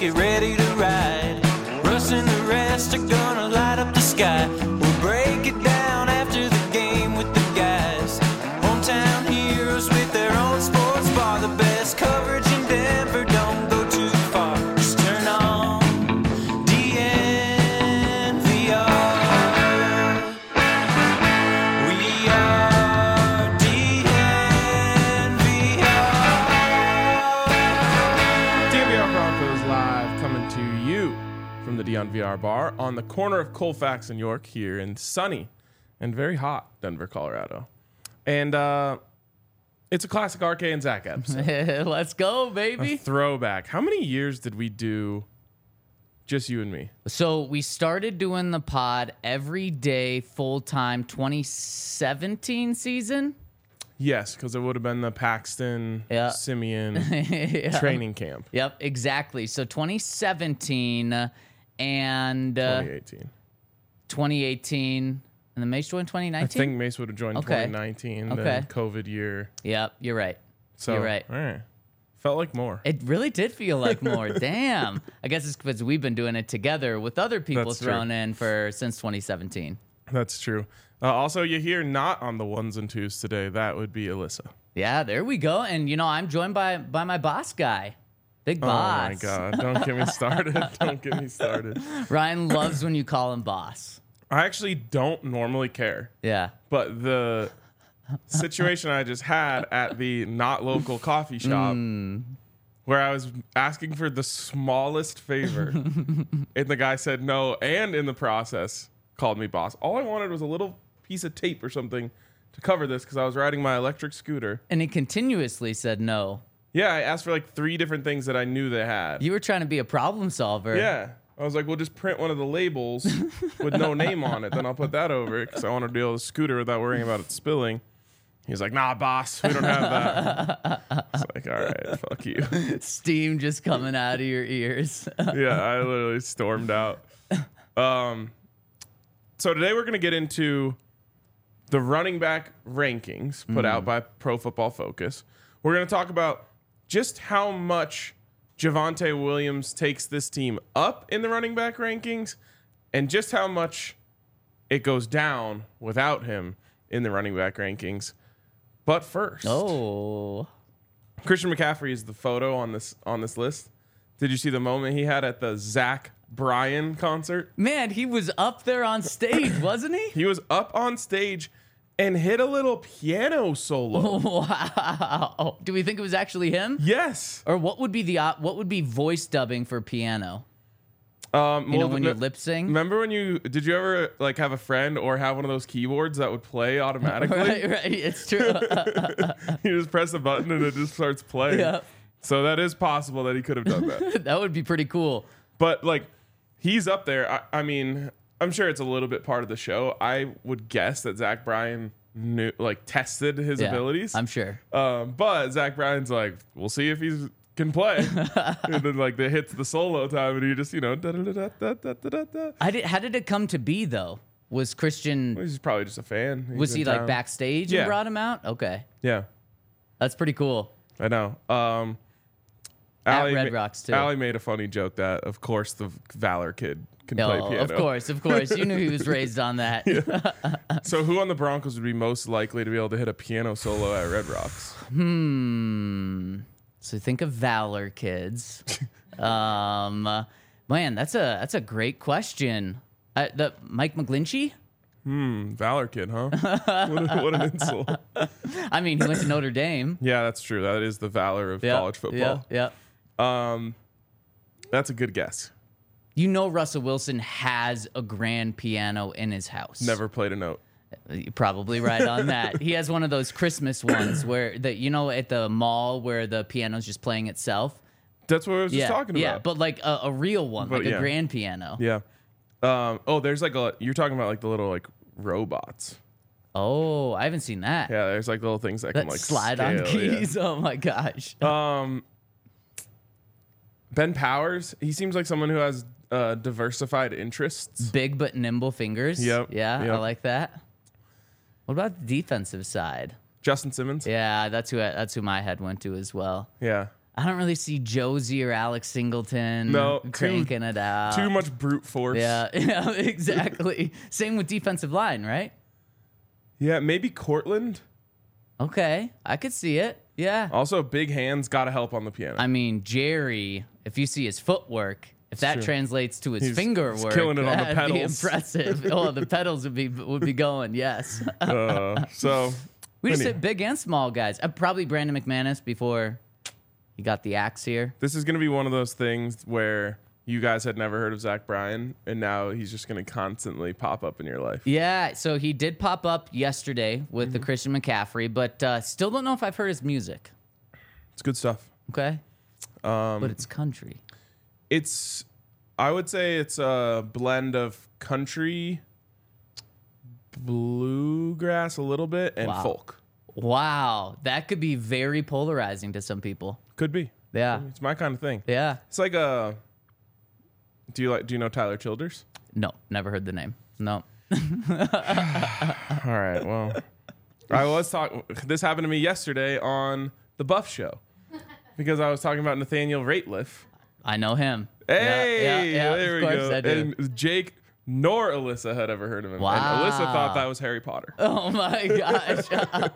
get ready to ride. Russ and the rest are gonna light up the sky. We'll break it down after the game with the guys. Hometown heroes with their own sports bar. The best coverage in Denver, don't go too far. Just turn on DNVR. We are DNVR Broncos live, coming to you from the DNVR bar on the corner of Colfax and York here in sunny and very hot Denver, Colorado. And it's a classic RK and Zach episode. Let's go, A baby. throwback. How many years did we do just you and me? So we started doing the pod every day, full time, 2017 season. Yes, because it would have been the Paxton Yeah. Simeon Yeah. training camp. Yep, exactly. So 2017 and 2018. 2018, and then Mace joined 2019. I think Mace would have joined Okay. 2019, Okay. then COVID year. Yep, you're right. So, You're right. All right. Felt like more. It really did feel like more. Damn. I guess it's because we've been doing it together with other people That's thrown true. in since 2017. That's true. Also, you hear not on the ones and twos today. That would be Alyssa. Yeah, there we go. And I'm joined by my boss guy, Big Boss. Oh my God! Don't get me started. Don't get me started. Ryan loves when you call him boss. I actually don't normally care, Yeah. but the situation I just had at the not local coffee shop, where I was asking for the smallest favor, and the guy said no, and in the process called me boss. All I wanted was a little piece of tape or something to cover this because I was riding my electric scooter. And he continuously said no. Yeah, I asked for like 3 different things that I knew they had. You were trying to be a problem solver. Yeah. I was like, well, just print one of the labels with no name on it. Then I'll put that over it because I want to deal with the scooter without worrying about it spilling. He's like, nah, boss, we don't have that. It's like, all right, fuck you. Steam just coming out of your ears. Yeah, I literally stormed out. So today we're going to get into the running back rankings put out by Pro Football Focus. We're going to talk about just how much Javonte Williams takes this team up in the running back rankings and just how much it goes down without him in the running back rankings. But first, Oh. Christian McCaffrey is the photo on this list. Did you see the moment he had at the Zach Bryan concert? Man, he was up there on stage, wasn't he? He was up on stage and hit a little piano solo. Wow. Do we think it was actually him? Yes. Or what would be voice dubbing for piano? When When you lip sync? Remember when did you ever like have a friend or have one of those keyboards that would play automatically? Right, it's true. You just press a button and it just starts playing. Yeah. So that is possible that he could have done that. That would be pretty cool. But like, he's up there. I mean, I'm sure it's a little bit part of the show. I would guess that Zach Bryan tested his Yeah, abilities. I'm sure. But Zach Bryan's like, we'll see if he can play. And then like it hits the solo time, and he just da-da-da-da-da-da-da-da. How did it come to be though? Was Christian He's probably just a fan. He's was he in like town. backstage Yeah. and brought him out? Okay, Yeah, that's pretty cool. I know. At Allie Red Rocks, too. Allie made a funny joke that, of course, the Valor kid can play No, piano. of course. You knew he was raised on that. So who on the Broncos would be most likely to be able to hit a piano solo at Red Rocks? So think of Valor kids. Man, that's a great question. The Mike McGlinchey? Valor kid, huh? what an insult. I mean, he went to Notre Dame. Yeah, that's true. That is the Valor of college football. Yeah. That's a good guess. You know Russell Wilson has a grand piano in his house. Never played a note. You're probably right on that. He has one of those Christmas ones where at the mall where the piano's just playing itself. That's what I was just talking about. Yeah, but like a real one, But like yeah. a grand piano. Yeah. There's like you're talking about like the little like robots. Oh, I haven't seen that. Yeah, there's like little things that can That like slide on scale, yeah. keys. Oh my gosh. Ben Powers, he seems like someone who has diversified interests. Big but nimble fingers. Yep, Yeah, yep. I like that. What about the defensive side? Justin Simmons. Yeah, that's who my head went to as well. Yeah. I don't really see Josie or Alex Singleton cranking it out. Too much brute force. Yeah, exactly. Same with defensive line, right? Yeah, maybe Cortland. Okay, I could see it. Yeah. Also, big hands, gotta help on the piano. I mean, Jerry, if you see his footwork, if that translates to his finger work, killing it on the that'd be pedals. impressive. Oh, the pedals would be going, yes. So We just hit big and small guys. Probably Brandon McManus before he got the axe here. this is gonna be one of those things where you guys had never heard of Zach Bryan, and now he's just gonna constantly pop up in your life. Yeah, so he did pop up yesterday with the Christian McCaffrey, but still don't know if I've heard his music. It's good stuff. Okay? But it's country. I would say it's a blend of country, bluegrass a little bit, and Wow. folk. Wow, that could be very polarizing to some people. Could be. Yeah. It's my kind of thing. Yeah. It's like a. Do you know Tyler Childers? No, never heard the name. No. All right. Well, I was talking. This happened to me yesterday on the Buff Show because I was talking about Nathaniel Rateliff. I know him. Hey, yeah, there of we course go. I do. And Jake nor Alyssa had ever heard of him. Wow. And Alyssa thought that was Harry Potter. Oh my gosh.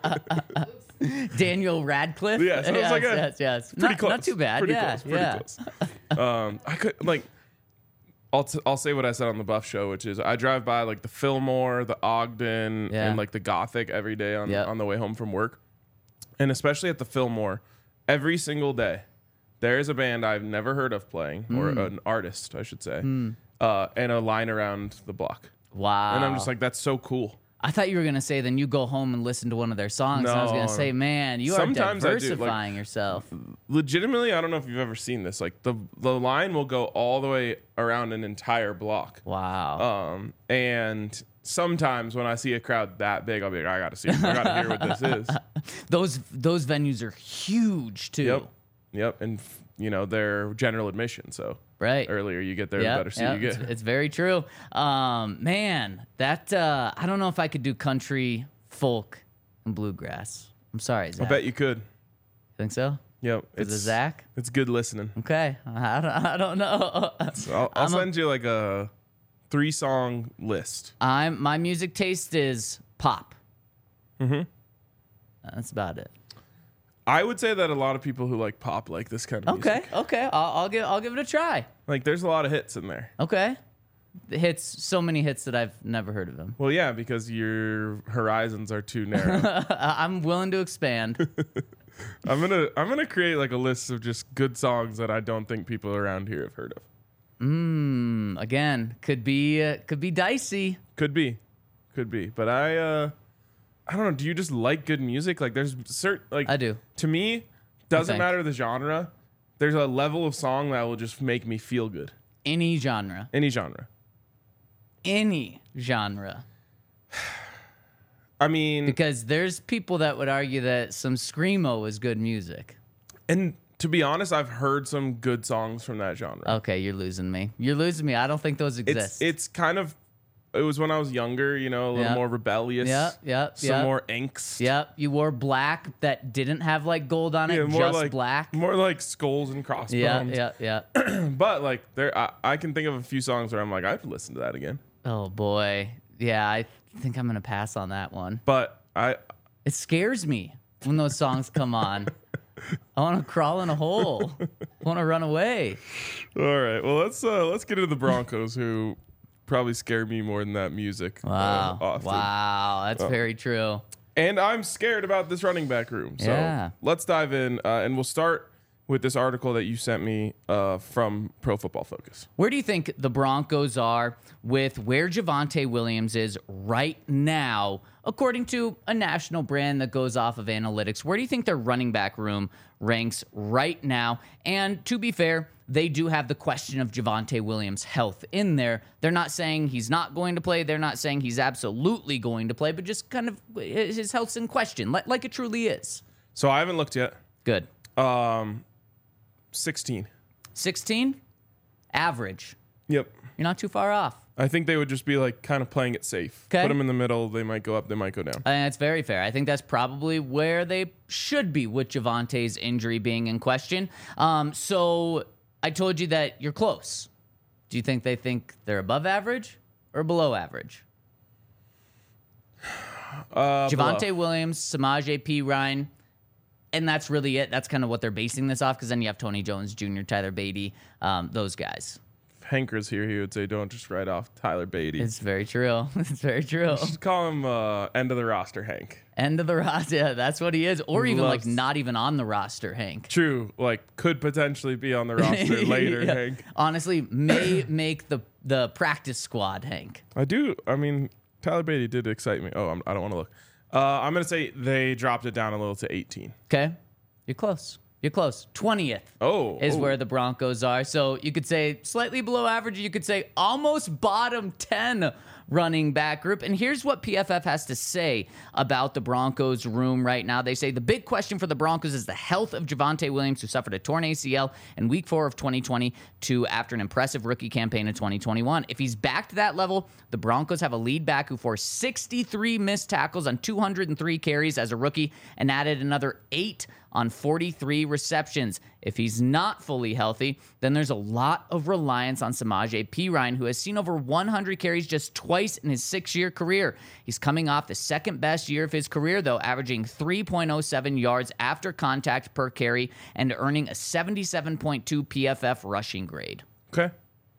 Daniel Radcliffe. Yeah, so it was like yes. Pretty close. Not too bad. Pretty yeah, close. Pretty close. I could like. I'll say what I said on the Buff Show, which is I drive by like the Fillmore, the Ogden, Yeah. and like the Gothic every day Yep. on the way home from work, and especially at the Fillmore, every single day, there is a band I've never heard of playing, or an artist, I should say, and a line around the block, Wow. and I'm just like, that's so cool. I thought you were gonna say then you go home and listen to one of their songs. And I was gonna No. say, man, you Sometimes I are do, like- diversifying yourself. Legitimately, I don't know if you've ever seen this. Like the line will go all the way around an entire block. Wow. And sometimes when I see a crowd that big, I'll be like, I gotta see it. I gotta hear what this is. Those venues are huge too. Yep. And they're general admission. So Right. earlier you get there, the better seat you get. It's very true. Man, that I don't know if I could do country, folk, and bluegrass. I'm sorry, Zach. I bet you could. Think so? Yep. Is it Zach? It's good listening. Okay. I don't know. So I'll send you like a 3-song list. My music taste is pop. Mm-hmm. That's about it. I would say that a lot of people who like pop like this kind of music. Okay. I'll give it a try. Like there's a lot of hits in there. Okay. The hits, so many hits that I've never heard of them. Well, yeah, because your horizons are too narrow. I'm willing to expand. I'm gonna create like a list of just good songs that I don't think people around here have heard of. Again, could be dicey. Could be, but I don't know. Do you just like good music? Like there's certain like I do. To me, doesn't think. matter the genre. There's a level of song that will just make me feel good. Any genre. Any genre. Any genre. I mean, Because there's people that would argue that some screamo is good music. and to be honest, I've heard some good songs from that genre. Okay, you're losing me. I don't think those exist. It's kind of. It was when I was younger, a little Yeah. more rebellious. Some more angst. Yep, you wore black that didn't have like gold on it, Yeah, more just like black. More like skulls and crossbones. Yeah. But like I can think of a few songs where I'm like, I'd listen to that again. Oh boy. Yeah, I think I'm gonna pass on that one. But It scares me when those songs come on. I want to crawl in a hole. I want to run away. all right. Well, let's get into the Broncos, who probably scare me more than that music. Wow. Often. Wow. That's very true. And I'm scared about this running back room. So Yeah. let's dive in, and we'll start with this article that you sent me from Pro Football Focus. Where do you think the Broncos are with where Javonte Williams is right now, according to a national brand that goes off of analytics? Where do you think their running back room ranks right now? And to be fair, they do have the question of Javonte Williams' health in there. They're not saying he's not going to play. They're not saying he's absolutely going to play, but just kind of his health's in question, like it truly is. So I haven't looked yet. Good. 16. 16? Average. Yep. You're not too far off. I think they would just be like kind of playing it safe. 'Kay. Put them in the middle. They might go up. They might go down. And that's very fair. I think that's probably where they should be with Javonte's injury being in question. So I told you that you're close. Do you think they think they're above average or below average? Javonte Williams, Samaje Perine, and that's really it. That's kind of what they're basing this off, because then you have Tony Jones Jr., Tyler Beatty, those guys. If Hank was here, he would say, don't just write off Tyler Beatty. It's very true. It's very true. Just call him end of the roster Hank. End of the roster. Yeah, that's what he is. Or even Loves- like not even on the roster, Hank. True. Like, could potentially be on the roster later, Yeah. Hank. Honestly, may make the practice squad, Hank. I mean, Tyler Beatty did excite me. Oh, I don't want to look. I'm going to say they dropped it down a little to 18. Okay. You're close. You're close. 20th is where the Broncos are. So you could say slightly below average. You could say almost bottom 10 running back group. And here's what PFF has to say about the Broncos room right now. They say the big question for the Broncos is the health of Javonte Williams, who suffered a torn ACL in week 4 of 2022 after an impressive rookie campaign in 2021. If he's back to that level, the Broncos have a lead back who forced 63 missed tackles on 203 carries as a rookie and added another 8 on 43 receptions. If he's not fully healthy, then there's a lot of reliance on Samaje Perine, who has seen over 100 carries just twice in his 6-year career. He's coming off the second best year of his career, though, averaging 3.07 yards after contact per carry and earning a 77.2 PFF rushing grade. Okay.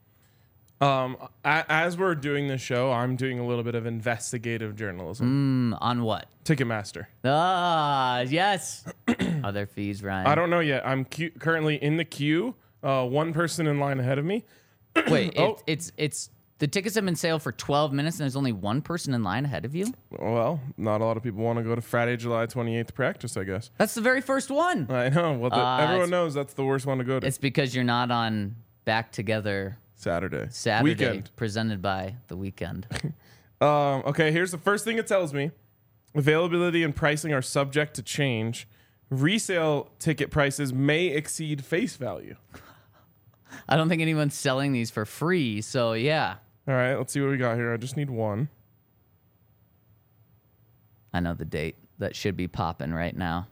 As we're doing this show, I'm doing a little bit of investigative journalism. On what? Ticketmaster. Ah, yes. Are there fees, Ryan? I don't know yet. I'm currently in the queue. One person in line ahead of me. Wait, Oh. it's the tickets have been sale for 12 minutes and there's only one person in line ahead of you? Well, not a lot of people want to go to Friday, July 28th practice, I guess. That's the very first one. I know. Well, everyone knows that's the worst one to go to. It's because you're not on Back Together Saturday. Weekend, presented by The Weekend. Okay, here's the first thing it tells me. Availability and pricing are subject to change. Resale ticket prices may exceed face value. I don't think anyone's selling these for free, so yeah. All right, let's see what we got here. I just need one. I know the date. That should be popping right now.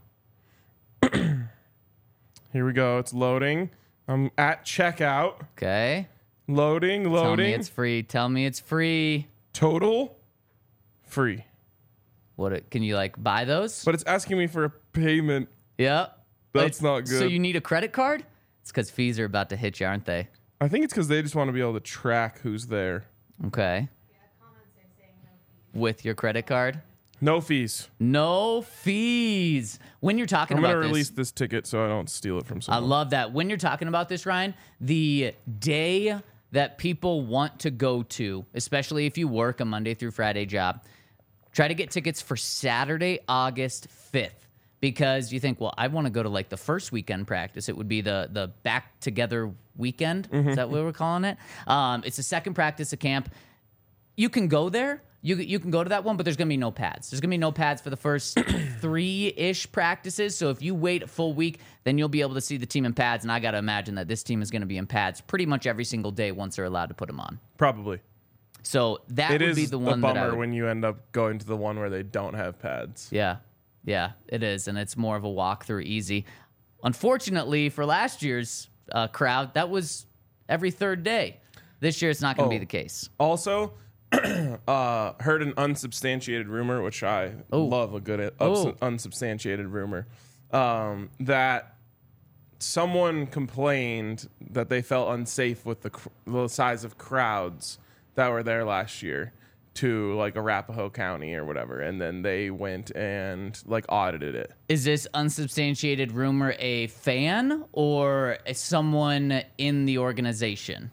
Here we go. It's loading. I'm at checkout. Okay. Loading. Tell me it's free. Tell me it's free. Total free. Can you like buy those? But it's asking me for a payment. Yep. That's not good. So you need a credit card? It's because fees are about to hit you, aren't they? I think it's because they just want to be able to track who's there. Okay. With your credit card? No fees. No fees. When you're talking I'm about going to this, release this ticket so I don't steal it from I someone. love that. When you're talking about this, Ryan, the day that people want to go to, especially if you work a Monday through Friday job, try to get tickets for Saturday, August 5th. Because you think, well, I want to go to like the first weekend practice. It would be the Back Together weekend. Is that what we're calling it? It's the second practice of camp. You can go there. You can go to that one, but there's going to be no pads. There's going to be no pads for the first 3-ish practices. So if you wait a full week, then you'll be able to see the team in pads. And I got to imagine that this team is going to be in pads pretty much every single day once they're allowed to put them on. Probably. So that It would is be the a one that I bummer would, when you end up going to the one where they don't have pads. Yeah, it is. And it's more of a walkthrough easy. Unfortunately, for last year's crowd, that was every third day. This year, it's not going to be the case. Also, heard an unsubstantiated rumor, which I love a good unsubstantiated rumor, that someone complained that they felt unsafe with the size of crowds that were there last year to like Arapahoe County or whatever, and then they went and like audited it. Is this unsubstantiated rumor a fan or someone in the organization?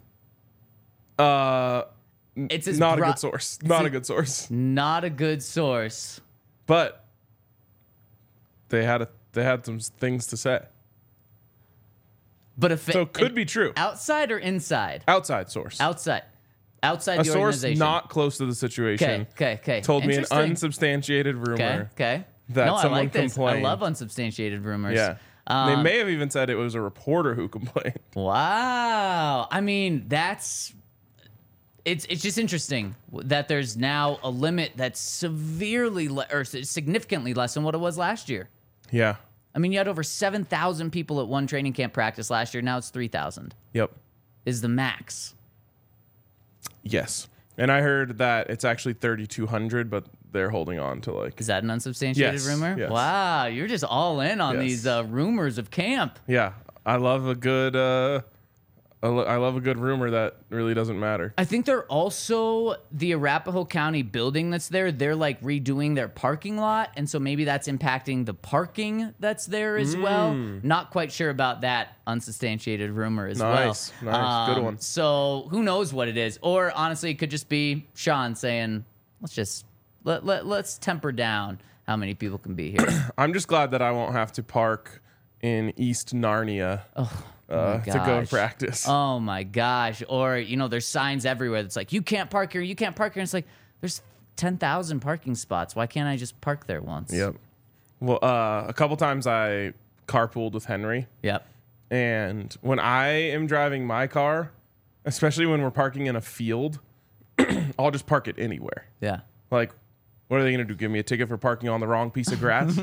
It's Not a good source. Not a good source. Not a good source. But they had some things to say. But So it could be true. Outside or inside? Outside source. Outside A the source organization. not close to the situation. Okay. Told me an Interesting. unsubstantiated rumor. Okay. that no, I someone like this. complained. I love unsubstantiated rumors. Yeah. They may have even said it was a reporter who complained. Wow. I mean, that's it's just interesting that there's now a limit that's significantly less than what it was last year. Yeah. I mean, you had over 7,000 people at one training camp practice last year. Now it's 3,000 Yep. is the max. Yes. And I heard that it's actually 3,200, but they're holding on to like. Is that an unsubstantiated Yes, rumor? yes. Wow, you're just all in on Yes. these rumors of camp. Yeah. I love a good. I love a good rumor that really doesn't matter. I think they're also the Arapahoe County building that's there. They're like redoing their parking lot, and so maybe that's impacting the parking that's there as well. Not quite sure about that unsubstantiated rumor as Nice. Good one. So who knows what it is? Or honestly, it could just be Sean saying, let's temper down how many people can be here. I'm just glad that I won't have to park in East Narnia to go gosh. practice. Oh my gosh. Or, there's signs everywhere that's like, you can't park here, you can't park here. And it's like, there's 10,000 parking spots. Why can't I just park there once? Yep. Well, a couple times I carpooled with Henry. Yep. And when I am driving my car, especially when we're parking in a field, I'll just park it anywhere. Yeah. Like, what are they going to do? Give me a ticket for parking on the wrong piece of grass?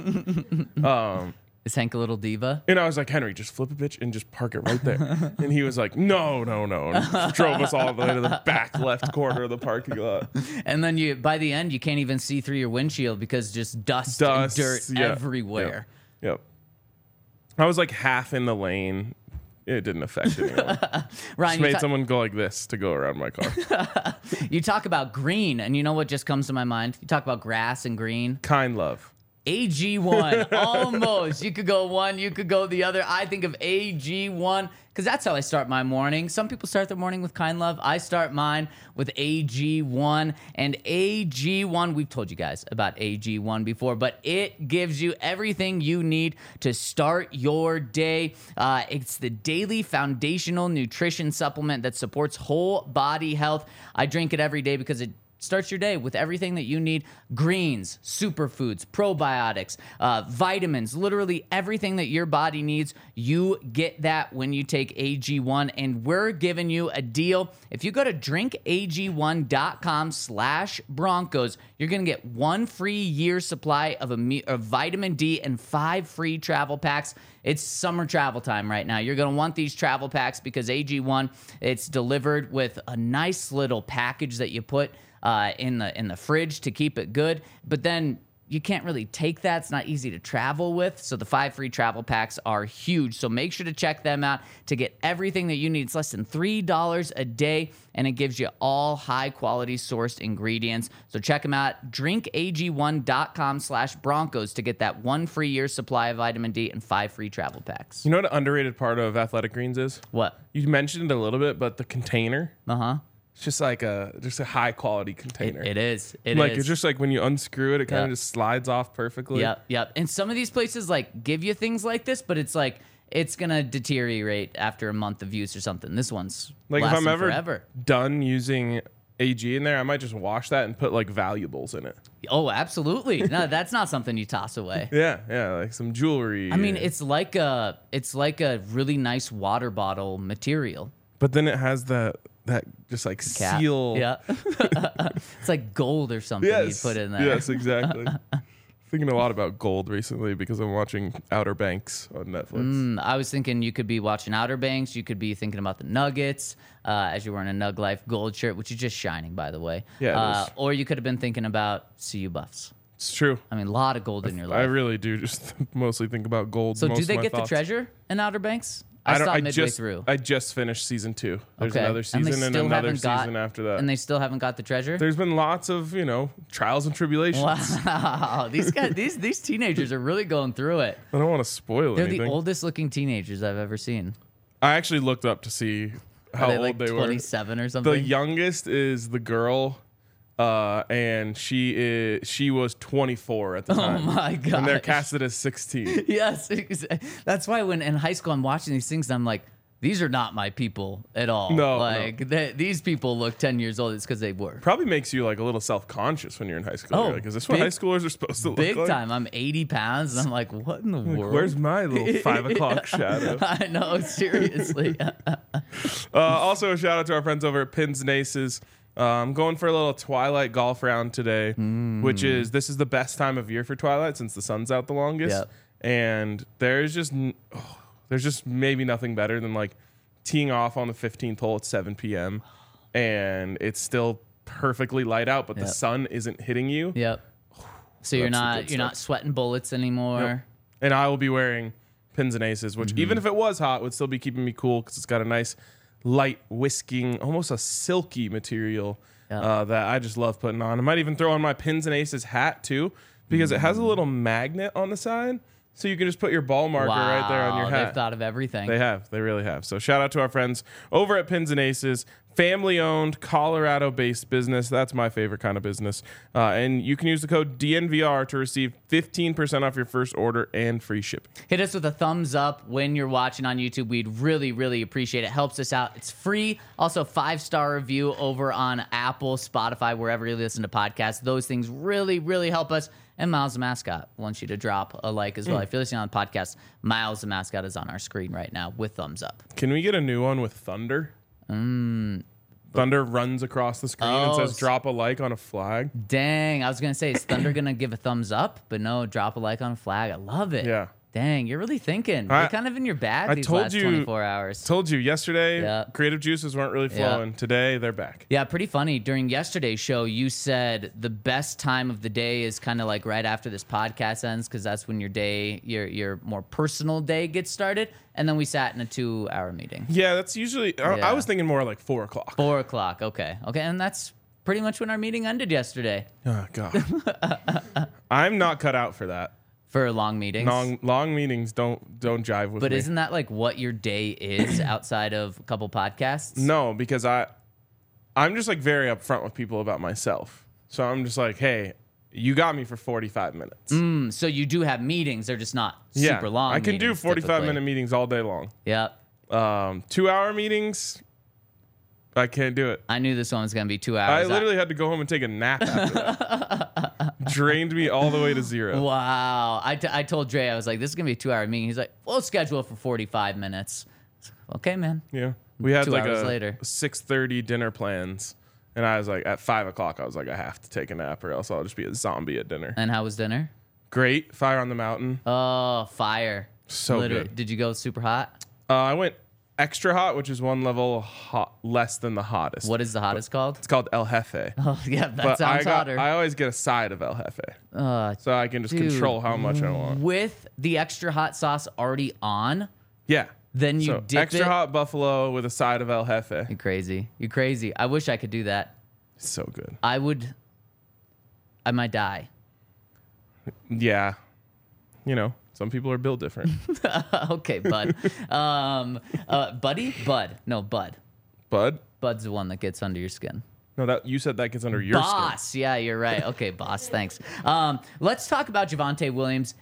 Is Hank a little diva? And I was like, Henry, just flip a bitch and just park it right there. And he was like, no. And drove us all the way to the back left corner of the parking lot. And then by the end, you can't even see through your windshield because just dust and dirt yeah. everywhere. Yep. I was like half in the lane. It didn't affect anyone. Ryan, Just made someone go like this to go around my car. you talk about green, and you know what just comes to my mind? You talk about grass and green. Kind love. AG1, almost. You could go one, you could go the other. I think of AG1 because that's how I start my morning. Some people start their morning with Kind Love. I start mine with AG1. And AG1, we've told you guys about AG1 before, but it gives you everything you need to start your day. It's the daily foundational nutrition supplement that supports whole body health. I drink it every day because it starts your day with everything that you need: greens, superfoods, probiotics, vitamins, literally everything that your body needs. You get that when you take AG1, and we're giving you a deal. If you go to drinkag1.com/Broncos, you're going to get 1 free year supply of vitamin D and 5 free travel packs. It's summer travel time right now. You're going to want these travel packs because AG1, it's delivered with a nice little package that you put in the fridge to keep it good. But then you can't really take that. It's not easy to travel with. So the 5 free travel packs are huge. So make sure to check them out to get everything that you need. It's less than $3 a day, and it gives you all high quality sourced ingredients. So check them out. drinkag1.com/Broncos to get that 1 free year supply of vitamin D and 5 free travel packs. You know what an underrated part of Athletic Greens is? What? You mentioned it a little bit, but the container. Uh-huh. It's just like a high quality container. It is. It's just like when you unscrew it, it kind of Yep. just slides off perfectly. Yep. And some of these places like give you things like this, but it's like it's gonna deteriorate after a month of use or something. This one's Like if lasting I'm ever forever. done using AG in there, I might just wash that and put like valuables in it. Oh, absolutely. No, that's not something you toss away. Yeah, like some jewelry. I mean, it's like a really nice water bottle material. but then it has that just like Cap. seal. Yeah. It's like gold or something you put in there. Yes, exactly. Thinking a lot about gold recently because I'm watching Outer Banks on Netflix. I was thinking you could be watching Outer Banks. You could be thinking about the Nuggets as you're wearing a Nug Life gold shirt, which is just shining, by the way. Yeah, it is. Or you could have been thinking about CU Buffs. It's true. I mean, a lot of gold in your life. I really do just mostly think about gold. So most do of they my get thoughts. the treasure in Outer Banks? I don't- stopped midway just, through. I just finished season 2. There's Okay. another And they season and still another haven't got- season after that. And they still haven't got the treasure? There's been lots of, trials and tribulations. Wow. These guys, these teenagers are really going through it. I don't want to spoil They're anything. the oldest looking teenagers I've ever seen. I actually looked up to see how Are they old like they 27 or something? were. The youngest is the girl, and she was 24 at the Oh time. my god. And they're casted as 16. Yes. That's why when in high school I'm watching these things, I'm like, these are not my people at all. No, Like these people look 10 years old. It's because they were. Probably makes you like a little self-conscious when you're in high school. Oh, You're like, is this what big- high schoolers are supposed to look Big like? time. I'm 80 pounds and I'm like, what in the Like, world? where's my little 5 o'clock shadow? I know, seriously. Also, a shout out to our friends over at Pins and Aces. I'm going for a little Twilight golf round today, this is the best time of year for Twilight since the sun's out the longest. Yep. And there's just maybe nothing better than like teeing off on the 15th hole at 7 p.m. and it's still perfectly light out, but the sun isn't hitting you. Yep. So you're not sweating bullets anymore. Yep. And I will be wearing pins and aces, which even if it was hot, would still be keeping me cool because it's got a nice light whisking, almost a silky material that I just love putting on. I might even throw on my pins and aces hat too because it has a little magnet on the side. So you can just put your ball marker right there on your hat. They've thought of everything. They have. They really have. So shout out to our friends over at Pins and Aces, family-owned, Colorado-based business. That's my favorite kind of business. And you can use the code DNVR to receive 15% off your first order and free shipping. Hit us with a thumbs up when you're watching on YouTube. We'd really, really appreciate it. Helps us out. It's free. Also, 5-star review over on Apple, Spotify, wherever you listen to podcasts. Those things really, really help us. And Miles the Mascot wants you to drop a like as well. If you're listening on the podcast, Miles the Mascot is on our screen right now with thumbs up. Can we get a new one with Thunder? Thunder runs across the screen and says drop a like on a flag. Dang, I was going to say, is Thunder going to give a thumbs up? But no, drop a like on a flag. I love it. Yeah. Dang, you're really thinking. You're kind of in your bag these last 24 hours. Told you yesterday, creative juices weren't really flowing. Today, they're back. Yeah, pretty funny. During yesterday's show, you said the best time of the day is kind of like right after this podcast ends because that's when your day, your more personal day gets started. And then we sat in a 2-hour meeting. Yeah, that's usually, I was thinking more like 4 o'clock. 4 o'clock, okay. Okay, and that's pretty much when our meeting ended yesterday. Oh, God. I'm not cut out for that. For long meetings. Long meetings don't jive with me. But isn't that like what your day is outside of a couple podcasts? No, because I'm just like very upfront with people about myself. So I'm just like, hey, you got me for 45 minutes. So you do have meetings. They're just not super long. I can do 45-minute meetings all day long. Yep. 2-hour meetings, I can't do it. I knew this one was going to be 2 hours. I literally had to go home and take a nap after that. Drained me all the way to 0. Wow. I told Dre, I was like, this is going to be a 2-hour meeting. He's like, we'll schedule it for 45 minutes. Okay, man. Yeah. We had 2 like hours a later. 6:30 dinner plans. And I was like, at 5 o'clock, I was like, I have to take a nap or else I'll just be a zombie at dinner. And how was dinner? Great. Fire on the Mountain. Oh, fire. So good. Did you go super hot? I went extra hot, which is one level less than the hottest. What is the hottest called? It's called El Jefe. Oh, yeah, that sounds hotter. I always get a side of El Jefe. So I can just control how much I want. With the extra hot sauce already on? Yeah. Then you dip extra hot buffalo with a side of El Jefe. You're crazy. You're crazy. I wish I could do that. It's so good. I might die. Yeah. You know, some people are built different. Okay, bud. Buddy? Bud. No, Bud. Bud? Bud's the one that gets under your skin. No, you said that gets under your skin. Boss. Yeah, you're right. Okay, boss. Thanks. Let's talk about Javonte Williams.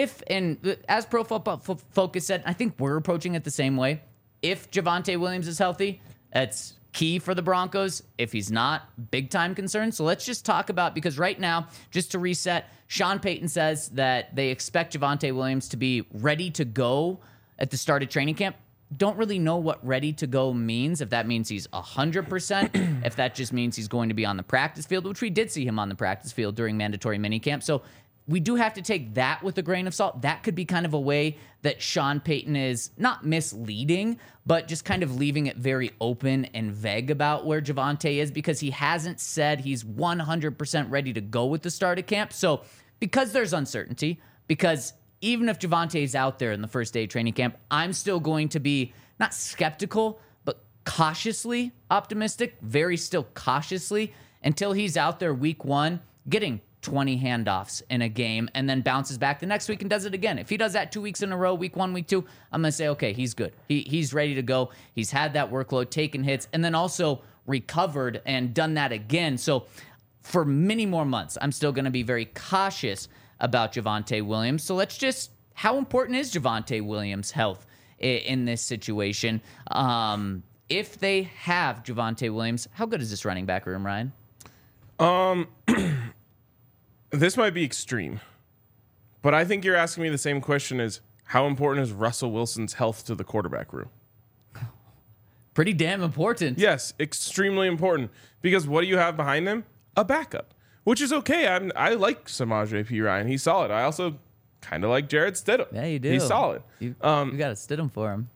As Pro Football Focus said, I think we're approaching it the same way. If Javonte Williams is healthy, that's key for the Broncos. If he's not, big time concern. So let's just talk about, because right now, just to reset, Sean Payton says that they expect Javonte Williams to be ready to go at the start of training camp. Don't really know what ready to go means, if that means he's 100%, if that just means he's going to be on the practice field, which we did see him on the practice field during mandatory minicamp. So we do have to take that with a grain of salt. That could be kind of a way that Sean Payton is not misleading, but just kind of leaving it very open and vague about where Javonte is, because he hasn't said he's 100% ready to go with the start of camp. So because there's uncertainty, because even if Javonte is out there in the first day of training camp, I'm still going to be not skeptical, but cautiously optimistic, very still cautiously, until he's out there week 1 getting 20 handoffs in a game and then bounces back the next week and does it again. If he does that 2 weeks in a row, week 1, week 2, I'm going to say, okay, he's good. He's ready to go. He's had that workload, taken hits, and then also recovered and done that again. So for many more months, I'm still going to be very cautious about Javonte Williams. So how important is Javonte Williams' health in this situation? If they have Javonte Williams, how good is this running back room, Ryan? This might be extreme, but I think you're asking me the same question as how important is Russell Wilson's health to the quarterback room? Pretty damn important. Yes, extremely important. Because what do you have behind him? A backup, which is okay. I like Samaje Perine. He's solid. I also kind of like Jared Stidham. Yeah, you do. He's solid. You got to Stidham for him.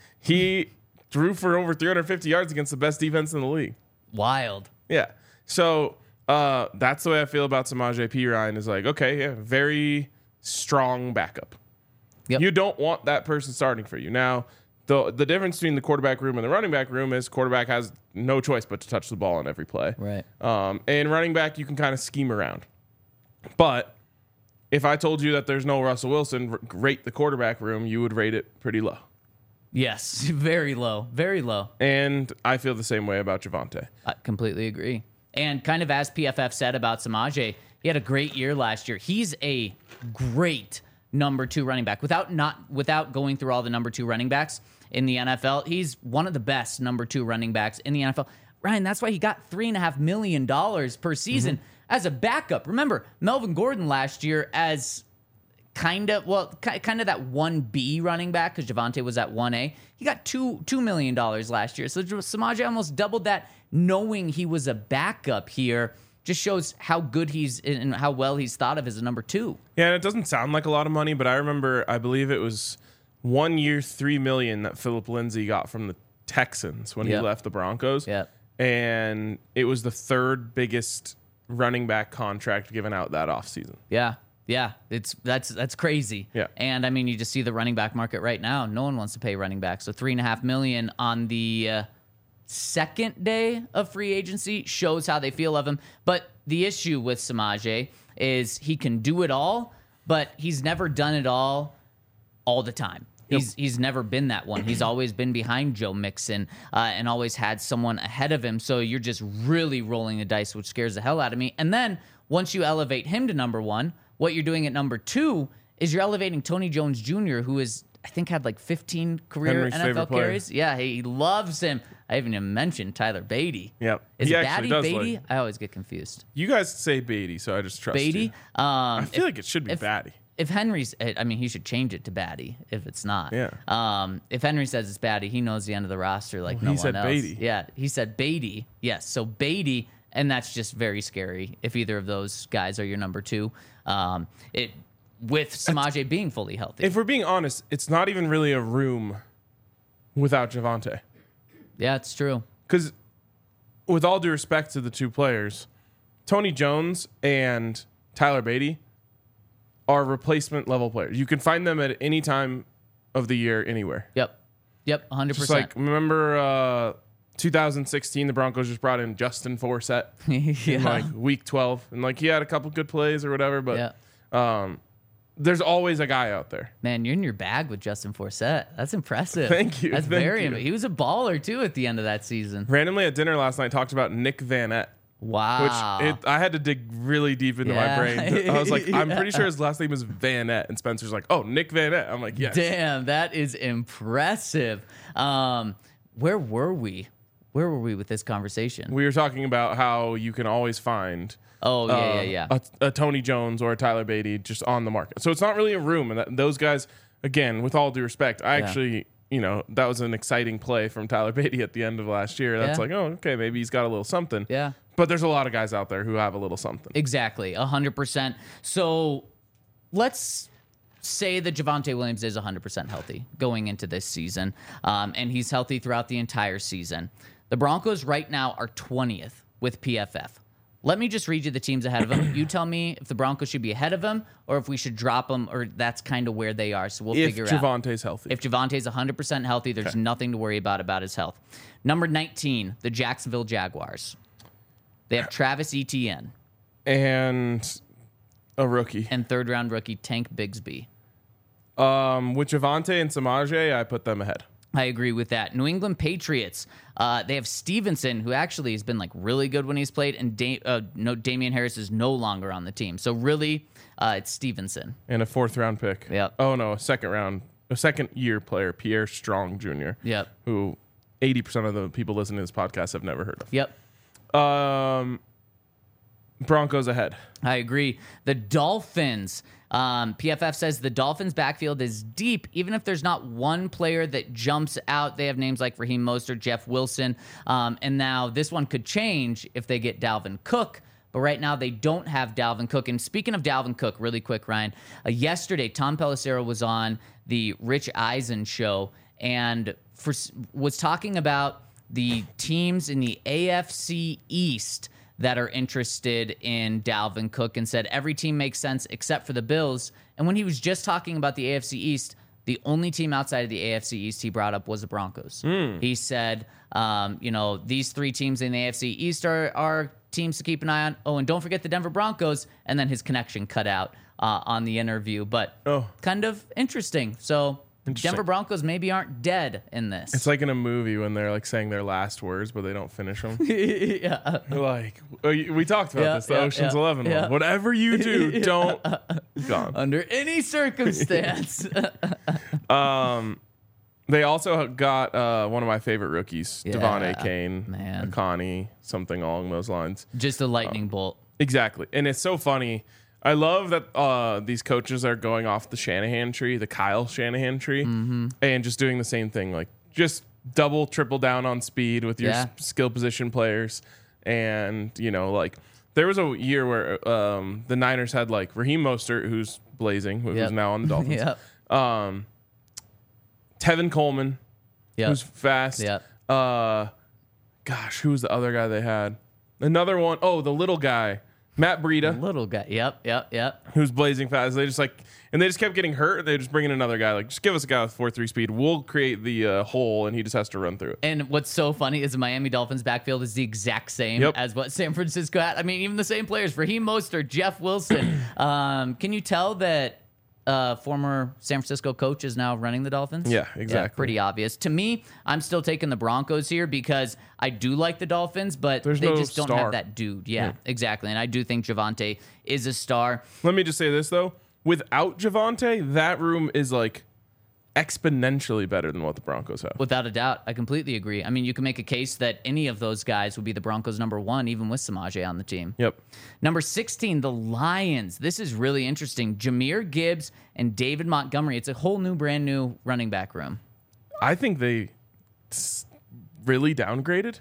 He threw for over 350 yards against the best defense in the league. Wild. Yeah. So that's the way I feel about Samaje Perine is like, okay, yeah, very strong backup. Yep. You don't want that person starting for you. Now, the difference between the quarterback room and the running back room is quarterback has no choice but to touch the ball on every play. Right. And running back, you can kind of scheme around. But if I told you that there's no Russell Wilson, rate the quarterback room, you would rate it pretty low. Yes, very low, very low. And I feel the same way about Javonte. I completely agree. And kind of as PFF said about Samaje, he had a great year last year. He's a great number 2 running back. Without going through all the number 2 running backs in the NFL, he's one of the best number 2 running backs in the NFL. Ryan, that's why he got $3.5 million per season as a backup. Remember, Melvin Gordon last year as kind of that 1B running back because Javonte was at 1A. He got $2 million last year. So Samaje almost doubled that knowing he was a backup here. Just shows how good he's and how well he's thought of as a number 2. Yeah, and it doesn't sound like a lot of money, but I remember, I believe it was 1 year, $3 million that Philip Lindsay got from the Texans when he left the Broncos. Yeah. And it was the 3rd biggest running back contract given out that offseason. Yeah. Yeah, that's crazy. Yeah. And I mean, you just see the running back market right now. No one wants to pay running back. So $3.5 million on the second day of free agency shows how they feel of him. But the issue with Samaje is he can do it all, but he's never done it all the time. He's never been that one. He's always been behind Joe Mixon and always had someone ahead of him. So you're just really rolling the dice, which scares the hell out of me. And then once you elevate him to number 1, what you're doing at number 2 is you're elevating Tony Jones Jr., who is, I think, had like 15 career Henry's NFL carries. Yeah, he loves him. I haven't even mentioned Tyler Beatty. Yep. Is He it actually Batty, does Beatty? like- I always get confused. You guys say Beatty, so I just trust Beatty? you. I feel like it should be if- Batty. If Henry's, I mean, he should change it to Batty if it's not. Yeah. If Henry says it's Batty, he knows the end of the roster like no he one said else. Beatty. Yeah, he said Beatty. Yes, so Beatty, and that's just very scary if either of those guys are your number 2. With Samaje being fully healthy. If we're being honest, it's not even really a room without Javonte. Yeah, it's true. Because with all due respect to the 2 players, Tony Jones and Tyler Beatty are replacement level players. You can find them at any time of the year, anywhere. Yep, 100%. Just like, remember 2016, the Broncos just brought in Justin Forsett in like week 12. And like, he had a couple good plays or whatever, but there's always a guy out there. Man, you're in your bag with Justin Forsett. That's impressive. Thank you. That's Thank you. He was a baller too at the end of that season. Randomly at dinner last night, talked about Nick Van Ette. Wow. Which I had to dig really deep into my brain. I was like, I'm pretty sure his last name is Van Ette. And Spencer's like, oh, Nick Van Ette. I'm like, yes. Damn, that is impressive. Where were we? Where were we with this conversation? We were talking about how you can always find Oh, yeah. a Tony Jones or a Tyler Beatty just on the market. So it's not really a room. And those guys, again, with all due respect, I actually, that was an exciting play from Tyler Beatty at the end of last year. That's like, oh, okay, maybe he's got a little something. Yeah. But there's a lot of guys out there who have a little something. Exactly, 100%. So let's say that Javonte Williams is 100% healthy going into this season, and he's healthy throughout the entire season. The Broncos right now are 20th with PFF. Let me just read you the teams ahead of them. You tell me if the Broncos should be ahead of them or if we should drop them, or that's kind of where they are. So we'll figure out. If Javonte's healthy. If Javonte's 100% healthy, there's nothing to worry about his health. Number 19, the Jacksonville Jaguars. They have Travis Etienne. And a rookie. And third-round rookie Tank Bigsby. With Javonte and Samaje, I put them ahead. I agree with that. New England Patriots. They have Stevenson, who actually has been like really good when he's played, and Damian Harris is no longer on the team. So really, it's Stevenson. And a 4th-round pick. Yep. Oh, no, a second-year player, Pierre Strong Jr. Yep. Who 80% of the people listening to this podcast have never heard of. Yep. Broncos ahead. I agree. The Dolphins. PFF says the Dolphins' backfield is deep, even if there's not one player that jumps out. They have names like Raheem Mostert, Jeff Wilson, and now this one could change if they get Dalvin Cook. But right now they don't have Dalvin Cook. And speaking of Dalvin Cook, really quick, Ryan, yesterday Tom Pelissero was on the Rich Eisen show and was talking about the teams in the AFC East that are interested in Dalvin Cook and said every team makes sense except for the Bills. And when he was just talking about the AFC East, the only team outside of the AFC East he brought up was the Broncos. He said, these three teams in the AFC East are teams to keep an eye on. Oh, and don't forget the Denver Broncos. And then his connection cut out on the interview. But kind of interesting. So Denver Broncos maybe aren't dead in this. It's like in a movie when they're like saying their last words, but they don't finish them. Yeah. Like, we talked about this, the Ocean's 11 one. Whatever you do, don't. Gone. Under any circumstance. They also got one of my favorite rookies, Devon A. Kane, man. Akani, something along those lines. Just a lightning bolt. Exactly. And it's so funny. I love that these coaches are going off the Shanahan tree, the Kyle Shanahan tree, and just doing the same thing. Like, just double, triple down on speed with your skill position players. And, there was a year where the Niners had, like, Raheem Mostert, who's blazing, who's now on the Dolphins. Tevin Coleman, who's fast. Gosh, who was the other guy they had? Another one. Oh, the little guy. Matt Breida. Little guy. Yep. Who's blazing fast. They just kept getting hurt. They just bring in another guy. Like, just give us a guy with 4.3 speed. We'll create the hole, and he just has to run through it. And what's so funny is the Miami Dolphins backfield is the exact same as what San Francisco had. I mean, even the same players. Raheem Mostert, Jeff Wilson. Can you tell that former San Francisco coach is now running the Dolphins? Yeah, exactly. Yeah, pretty obvious. To me, I'm still taking the Broncos here because I do like the Dolphins, but they just don't have that dude. Yeah, exactly. And I do think Javonte is a star. Let me just say this, though. Without Javonte, that room is like exponentially better than what the Broncos have. Without a doubt. I completely agree. I mean, you can make a case that any of those guys would be the Broncos' number one, even with Samaje on the team. Yep. Number 16, the Lions. This is really interesting. Jahmyr Gibbs and David Montgomery. It's a whole new, brand new running back room. I think they really downgraded.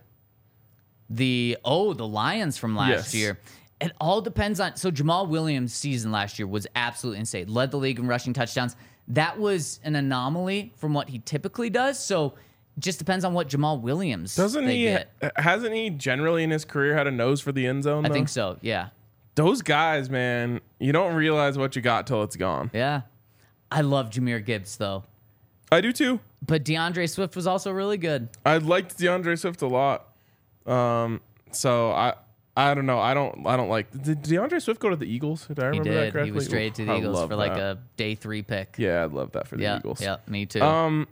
The Lions from last year. It all depends on... So Jamal Williams' season last year was absolutely insane. Led the league in rushing touchdowns. That was an anomaly from what he typically does. So it just depends on what Jamal Williams hasn't he generally in his career had a nose for the end zone, though? I think so, yeah. Those guys, man, you don't realize what you got till it's gone. Yeah. I love Jahmyr Gibbs, though. I do, too. But DeAndre Swift was also really good. I liked DeAndre Swift a lot. So I don't know. I don't like. Did DeAndre Swift go to the Eagles? Did I remember that correctly? He was traded to the Eagles for like a day 3 pick. Yeah, I'd love that for the Eagles. Yeah, me too. I'm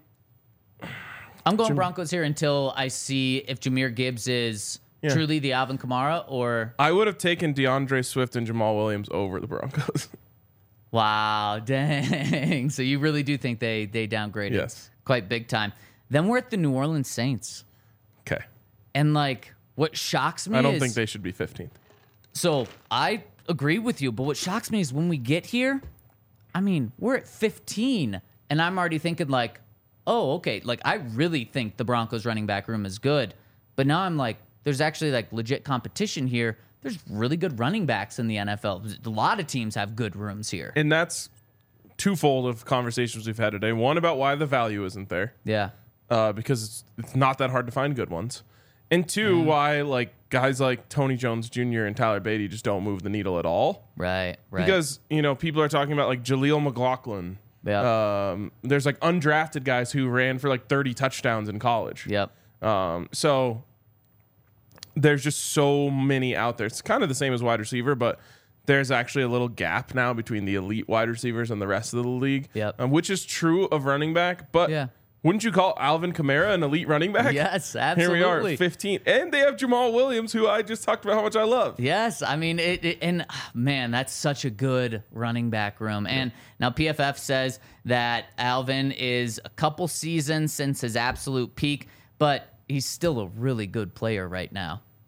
going Broncos here until I see if Jahmyr Gibbs is truly the Alvin Kamara or... I would have taken DeAndre Swift and Jamal Williams over the Broncos. Wow, dang. So you really do think they downgraded? Yes. Quite big time. Then we're at the New Orleans Saints. Okay. And like... What shocks me I don't think they should be 15th. So I agree with you, but what shocks me is when we get here, I mean, we're at 15, and I'm already thinking like, oh, okay, like I really think the Broncos running back room is good. But now I'm like, there's actually like legit competition here. There's really good running backs in the NFL. A lot of teams have good rooms here. And that's twofold of conversations we've had today. One about why the value isn't there. Yeah. Because it's not that hard to find good ones. And two, why like guys like Tony Jones Jr. and Tyler Beatty just don't move the needle at all. Right. Because, people are talking about like Jaleel McLaughlin. Yeah. There's like undrafted guys who ran for like 30 touchdowns in college. Yep. So there's just so many out there. It's kind of the same as wide receiver, but there's actually a little gap now between the elite wide receivers and the rest of the league. Yep. Which is true of running back, but wouldn't you call Alvin Kamara an elite running back? Yes, absolutely. Here we are, 15. And they have Jamal Williams, who I just talked about how much I love. Yes, I mean, man, that's such a good running back room. And now PFF says that Alvin is a couple seasons since his absolute peak, but he's still a really good player right now.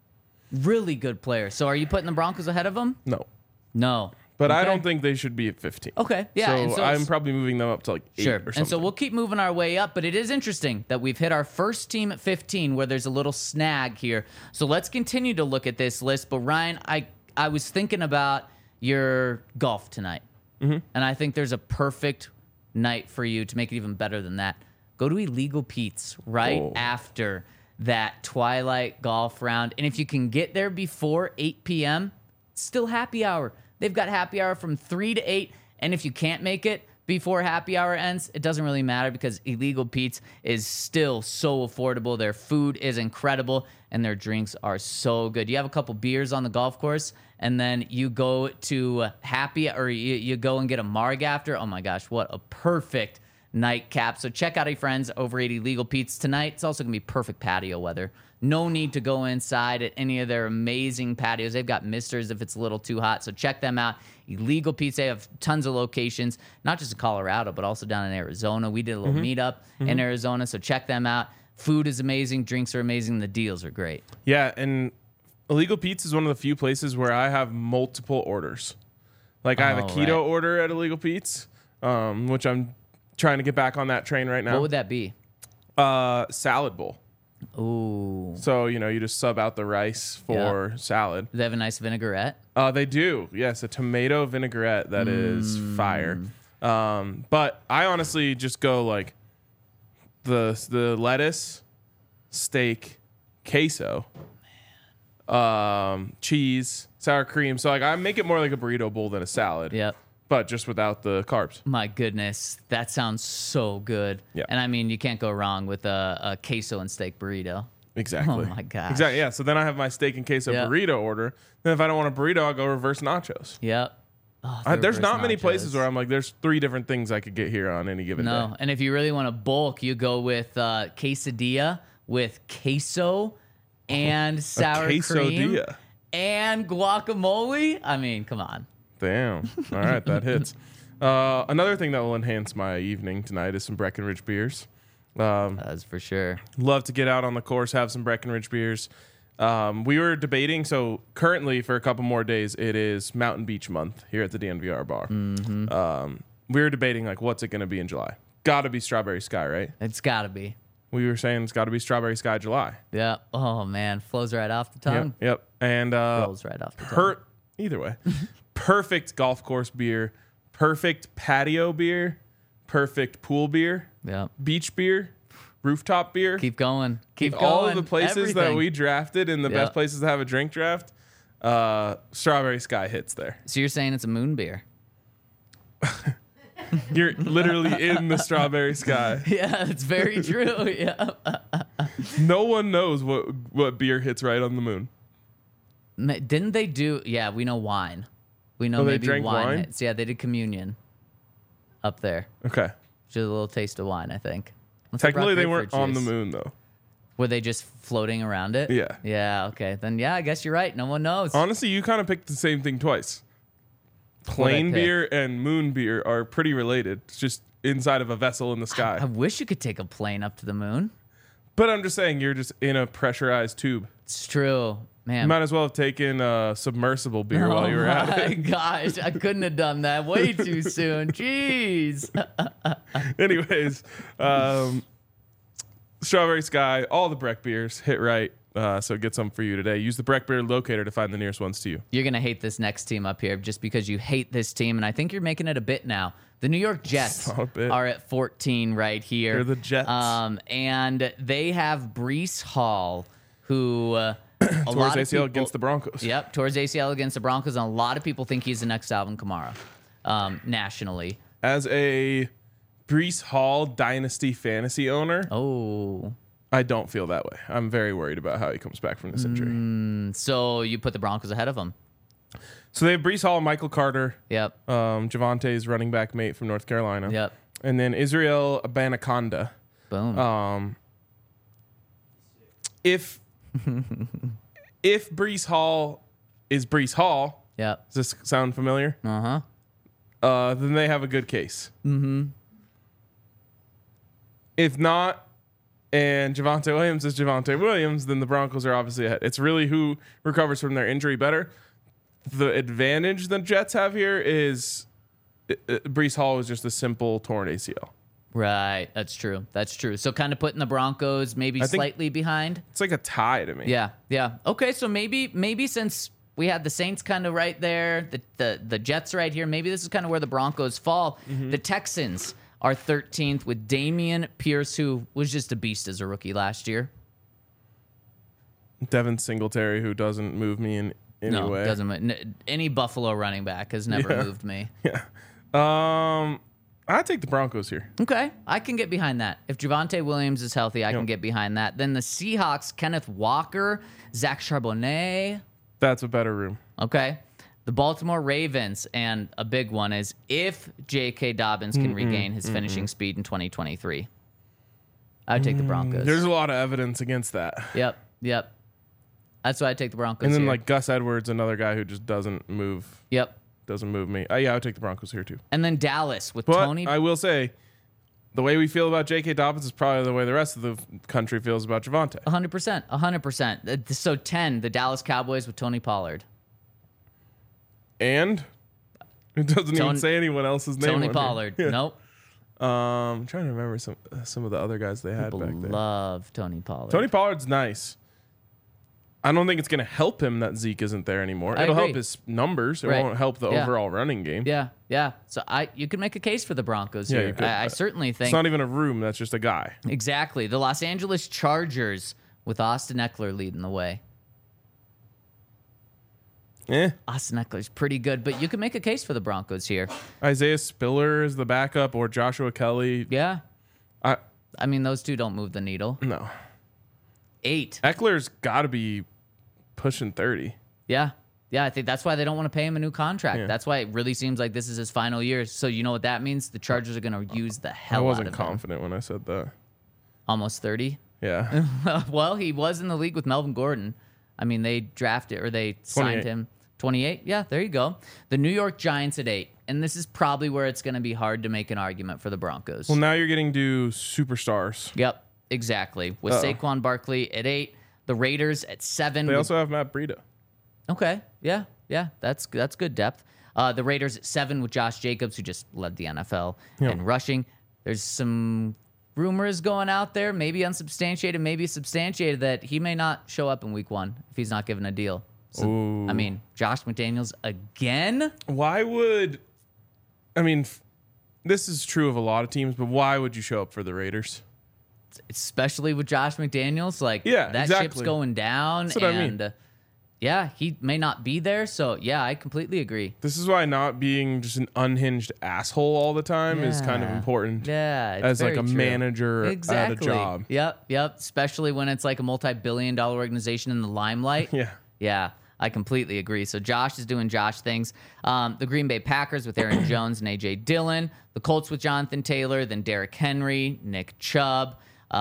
Really good player. So are you putting the Broncos ahead of them? No. No. But I Okay. don't think they should be at 15. Okay, yeah, and So, so I'm it's- probably moving them up to like 8 Sure. or something. And so we'll keep moving our way up, but it is interesting that we've hit our first team at 15 where there's a little snag here. So let's continue to look at this list. But Ryan, I was thinking about your golf tonight. And I think there's a perfect night for you to make it even better than that. Go to Illegal Pete's right Oh. after that twilight golf round. And if you can get there before 8 p.m., it's still happy hour. They've got happy hour from 3 to 8. And if you can't make it before happy hour ends, it doesn't really matter because Illegal Pete's is still so affordable. Their food is incredible and their drinks are so good. You have a couple beers on the golf course and then you go to you go and get a marg after. Oh my gosh, what a perfect nightcap. So check out our friends over at Illegal Pete's tonight. It's also going to be perfect patio weather. No need to go inside at any of their amazing patios. They've got misters if it's a little too hot. So check them out. Illegal Pete's, they have tons of locations, not just in Colorado, but also down in Arizona. We did a little meetup in Arizona, so check them out. Food is amazing. Drinks are amazing. The deals are great. Yeah, and Illegal Pete's is one of the few places where I have multiple orders. Like I have a keto right. order at Illegal Pete's, which I'm trying to get back on that train right now. What would that be? Salad bowl. Ooh. So, you just sub out the rice for salad. Do they have a nice vinaigrette? They do. Yes, a tomato vinaigrette that is fire. But I honestly just go like the lettuce, steak, queso, cheese, sour cream. So like I make it more like a burrito bowl than a salad. Yep. But just without the carbs. My goodness, that sounds so good. Yeah. And I mean, you can't go wrong with a queso and steak burrito. Exactly. Oh my gosh. Exactly. Yeah. So then I have my steak and queso Yeah. burrito order. Then if I don't want a burrito, I'll go reverse nachos. Yep. Oh, There's reverse not many nachos. places where I'm like, there's 3 different things I could get here on any given No, day. and if you really want to bulk, you go with quesadilla with queso and sour cream quesadilla. and guacamole. I mean, come on. Damn. All right, that hits. Another thing that will enhance my evening tonight is some Breckenridge beers. That's for sure. Love to get out on the course, have some Breckenridge beers. We were debating, so currently for a couple more days, it is Mountain Beach month here at the DNVR bar. We were debating, like, what's it going to be in July? Got to be Strawberry Sky, right? It's got to be. We were saying it's got to be Strawberry Sky July. Yeah. Oh, man. Flows right off the tongue. Yep. And Rolls right off the tongue. either way, perfect golf course beer, perfect patio beer, perfect pool beer, Yep. beach beer, rooftop beer. Keep going. Keep going. All of the places that Everything. we drafted in the Yeah. best places to have a drink draft, Strawberry Sky hits there. So you're saying it's a moon beer? You're literally in the Strawberry Sky. Yeah, it's very true. Yeah. No one knows what beer hits right on the moon. Didn't they do? Yeah, we know wine. We know Oh, they maybe drank wine? hits. Yeah, they did communion up there. Okay. Just a little taste of wine, I think. Unless they Technically, brought they weren't grapefruit on the juice. moon, though. Were they just floating around it? Yeah. Yeah, okay. Then, yeah, I guess you're right. No one knows. Honestly, you kind of picked the same thing twice. What'd I Plain pick? beer and moon beer are pretty related. It's just inside of a vessel in the sky. I wish you could take a plane up to the moon. But I'm just saying, you're just in a pressurized tube. It's true. Man. You might as well have taken submersible beer while you were at my it. gosh, I couldn't have done that way too soon. Jeez. Anyways, Strawberry Sky, all the Breck beers hit right. So get some for you today. Use the Breck beer locator to find the nearest ones to you. You're going to hate this next team up here just because you hate this team, and I think you're making it a bit now. The New York Jets Not a bit. are at 14 right here. They're the Jets. And they have Breece Hall, who a Towards lot of ACL people, against the Broncos. Yep, towards ACL against the Broncos, and a lot of people think he's the next Alvin Kamara nationally. As a Breece Hall dynasty fantasy owner, Oh, I don't feel that way. I'm very worried about how he comes back from this injury. so you put the Broncos ahead of him. So they have Breece Hall, Michael Carter, Yep, Javante's running back mate from North Carolina. yep. And then Israel Abanaconda. Boom. If Breece Hall is Breece Hall, Yep. does this sound familiar? Then they have a good case. Mm-hmm. If not, and Javonte Williams is Javonte Williams, then the Broncos are obviously ahead. It's really who recovers from their injury better. The advantage the Jets have here is Breece Hall was just a simple torn ACL. Right. That's true. So kind of putting the Broncos maybe slightly behind. It's like a tie to me. Yeah. Okay, so maybe since we had the Saints kind of right there, the Jets right here, maybe this is kind of where the Broncos fall. The Texans are 13th with Dameon Pierce, who was just a beast as a rookie last year. Devin Singletary, who doesn't move me in any way. Doesn't. Any Buffalo running back has never moved me. Yeah. I'd take the Broncos here. Okay, I can get behind that. If Javonte Williams is healthy, I can get behind that. Then the Seahawks, Kenneth Walker, Zach Charbonnet. That's a better room. Okay. The Baltimore Ravens, and a big one is if J.K. Dobbins can regain his finishing speed in 2023. I would take the Broncos. There's a lot of evidence against that. Yep. That's why I take the Broncos And then here. like Gus Edwards, another guy who just doesn't move. Yep. Doesn't move me. Yeah, I would take the Broncos here too. And then Dallas with But Tony. I will say, the way we feel about J.K. Dobbins is probably the way the rest of the country feels about Javonte. 100%. So 10, the Dallas Cowboys with Tony Pollard. And it doesn't even say anyone else's name. Tony on Pollard. here. Yeah. Nope. I'm trying to remember some of the other guys they had People back there. love Tony Pollard. Tony Pollard's nice. I don't think it's going to help him that Zeke isn't there anymore. It'll agree. help his numbers. It Right. won't help the Yeah. overall running game. Yeah. So you could make a case for the Broncos Yeah, here. you could. I certainly think. It's not even a room. That's just a guy. Exactly. The Los Angeles Chargers with Austin Eckler leading the way. Austin Eckler's pretty good, but you can make a case for the Broncos here. Isaiah Spiller is the backup, or Joshua Kelly. Yeah. I mean, those two don't move the needle. No. 8. Eckler's got to be pushing 30. Yeah, I think that's why they don't want to pay him a new contract. Yeah. That's why it really seems like this is his final year. So you know what that means? The Chargers are going to use the hell out of him. I wasn't confident when I said that. Almost 30? Yeah. Well, he was in the league with Melvin Gordon. I mean, they signed him. 28? Yeah, there you go. The New York Giants at 8. And this is probably where it's going to be hard to make an argument for the Broncos. Well, now you're getting to superstars. Yep, exactly. With Saquon Barkley at 8. The Raiders at 7. They also have Matt Breida. Okay. Yeah. That's good depth. The Raiders at 7 with Josh Jacobs, who just led the NFL in rushing. There's some rumors going out there, maybe unsubstantiated, maybe substantiated, that he may not show up in week 1 if he's not given a deal. So, I mean, Josh McDaniels again? Why would... I mean, this is true of a lot of teams, but why would you show up for the Raiders? Especially with Josh McDaniels. Like, Yeah, that exactly. ship's going down. That's what I and mean. Yeah, he may not be there. So, yeah, I completely agree. This is why not being just an unhinged asshole all the time is kind of Yeah. important. Yeah, it's As like very a true. manager at a job. Yep. Especially when it's like a multi-billion-dollar organization in the limelight. Yeah. I completely agree. So Josh is doing Josh things. The Green Bay Packers with Aaron Jones and A.J. Dillon. The Colts with Jonathan Taylor. Then Derrick Henry, Nick Chubb.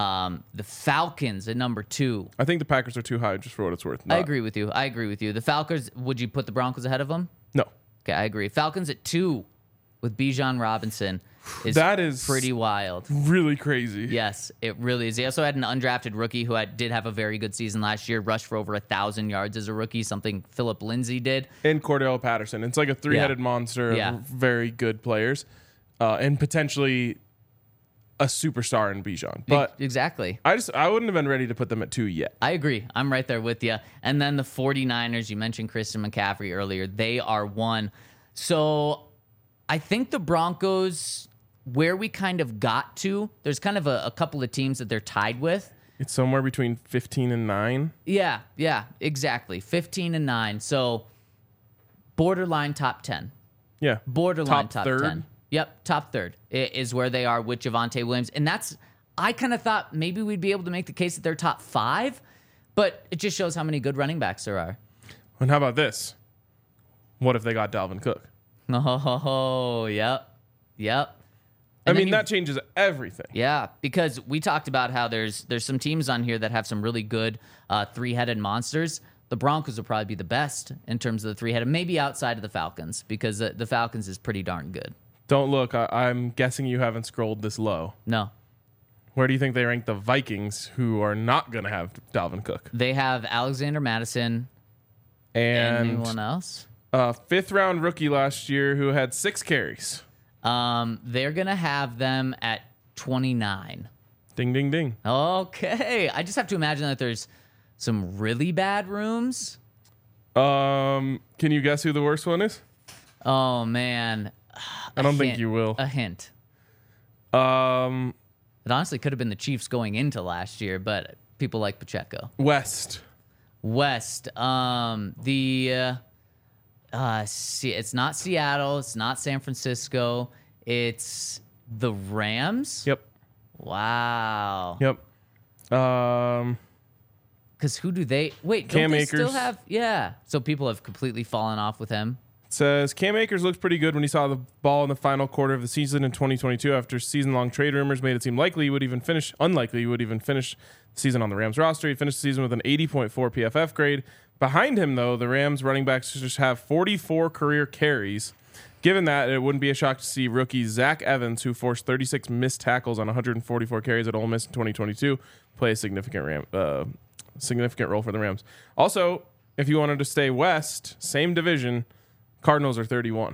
The Falcons at number 2. I think the Packers are too high just for what it's worth. I agree with you. The Falcons, would you put the Broncos ahead of them? No. Okay, I agree. Falcons at 2 with Bijan Robinson. That is pretty wild. Really crazy. Yes, it really is. He also had an undrafted rookie who did have a very good season last year, rushed for over 1,000 yards as a rookie, something Philip Lindsay did. And Cordell Patterson. It's like a three-headed monster of very good players and potentially a superstar in Bijan. But exactly. I wouldn't have been ready to put them at 2 yet. I agree. I'm right there with you. And then the 49ers, you mentioned Christian McCaffrey earlier. They are 1. So I think the Broncos, where we kind of got to, there's kind of a couple of teams that they're tied with. It's somewhere between 15 and 9. Yeah, exactly. 15 and 9. So borderline top 10. Yeah. Borderline top third. 10. Yep, top third is where they are with Javonte Williams. And I kind of thought maybe we'd be able to make the case that they're top 5, but it just shows how many good running backs there are. And how about this? What if they got Dalvin Cook? Oh, yep. I mean, that changes everything. Yeah, because we talked about how there's some teams on here that have some really good three-headed monsters. The Broncos will probably be the best in terms of the three-headed, maybe outside of the Falcons, because the Falcons is pretty darn good. Don't look. I'm guessing you haven't scrolled this low. No. Where do you think they rank the Vikings, who are not going to have Dalvin Cook? They have Alexander Madison. And Anyone else? fifth-round rookie last year who had 6 carries. They're going to have them at 29. Ding, ding, ding. Okay. I just have to imagine that there's some really bad rooms. Can you guess who the worst one is? Oh, man. I don't think you will. A hint. It It honestly could have been the Chiefs going into last year, but people like Pacheco. West. It's not Seattle. It's not San Francisco. It's the Rams. Yep. Wow. Yep. Because who do they? Wait, Cam don't they still Akers. have? Yeah. So people have completely fallen off with him. Says Cam Akers looked pretty good when he saw the ball in the final quarter of the season in 2022 after season-long trade rumors made it seem unlikely he would even finish the season on the Rams roster. He finished the season with an 80.4 PFF grade. Behind him, though, the Rams running backs just have 44 career carries. Given that, it wouldn't be a shock to see rookie Zach Evans, who forced 36 missed tackles on 144 carries at Ole Miss in 2022, play a significant role for the Rams. Also, if you wanted to stay west, same division, Cardinals are 31.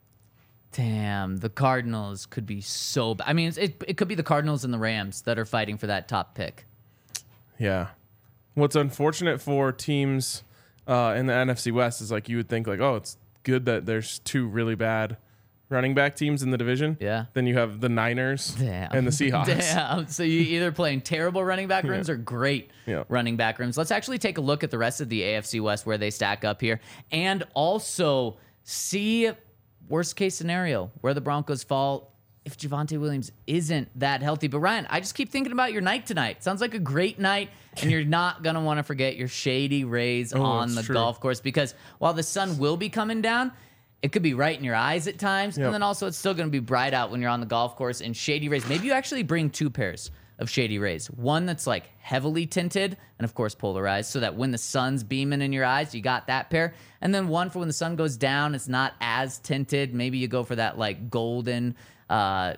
Damn, the Cardinals could be so bad. I mean, it could be the Cardinals and the Rams that are fighting for that top pick. Yeah. What's unfortunate for teams in the NFC West is like you would think like, oh, it's good that there's 2 really bad running back teams in the division. Yeah. Then you have the Niners and the Seahawks. Damn. So you either playing terrible running back rooms or great running back rooms. Let's actually take a look at the rest of the AFC West where they stack up here, and also see worst case scenario where the Broncos fall if Javonte Williams isn't that healthy. But Ryan, I just keep thinking about your night tonight. Sounds like a great night, and you're not going to want to forget your Shady Rays on the golf course, because while the sun will be coming down, it could be right in your eyes at times, and then also it's still going to be bright out when you're on the golf course. And Shady Rays, maybe you actually bring 2 pairs of Shady Rays. One that's like heavily tinted and of course polarized, so that when the sun's beaming in your eyes, you got that pair. And then one for when the sun goes down, it's not as tinted. Maybe you go for that like golden color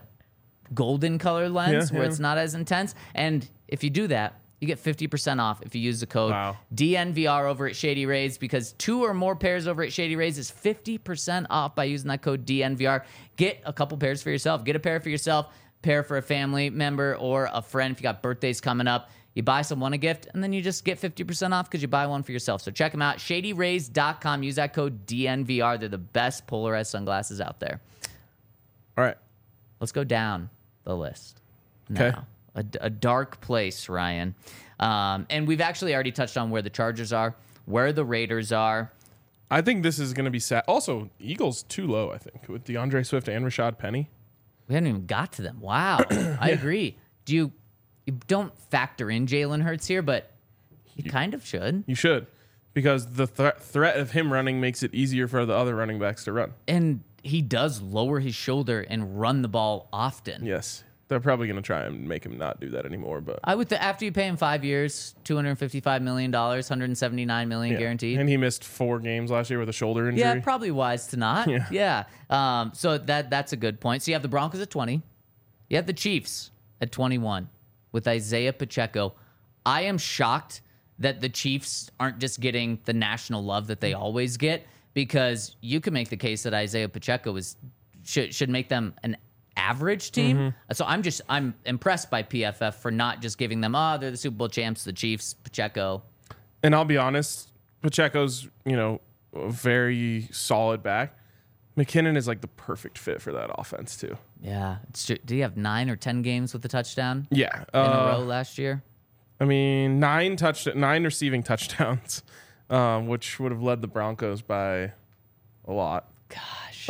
lens where it's not as intense. And if you do that, you get 50% off if you use the code DNVR over at Shady Rays, because 2 or more pairs over at Shady Rays is 50% off by using that code DNVR. Get a couple pairs for yourself. Get a pair for yourself, pair for a family member or a friend if you got birthdays coming up. You buy someone a gift, and then you just get 50% off because you buy one for yourself. So check them out, shadyrays.com. Use that code DNVR. They're the best polarized sunglasses out there. All right. Let's go down the list. Okay. Now, a dark place, Ryan. And we've actually already touched on where the Chargers are, where the Raiders are. I think this is going to be sad. Also, Eagles too low, I think, with DeAndre Swift and Rashad Penny. We haven't even got to them. Wow. I agree. You don't factor in Jalen Hurts here, but you kind of should. You should, because the threat of him running makes it easier for the other running backs to run. And he does lower his shoulder and run the ball often. Yes. They're probably going to try and make him not do that anymore. But I would after you pay him 5 years, $255 million, $179 million guaranteed. And he missed 4 games last year with a shoulder injury. Yeah, probably wise to not. Yeah. So that's a good point. So you have the Broncos at 20. You have the Chiefs at 21 with Isaiah Pacheco. I am shocked that the Chiefs aren't just getting the national love that they always get, because you can make the case that Isaiah Pacheco should make them an average team. So I'm impressed by PFF for not just giving them, they're the Super Bowl champs, the Chiefs, Pacheco. And I'll be honest, Pacheco's, a very solid back. McKinnon is like the perfect fit for that offense too. Yeah. Did he have 9 or 10 games with a touchdown? Yeah. In a row last year? I mean, 9 receiving touchdowns, which would have led the Broncos by a lot. Gosh.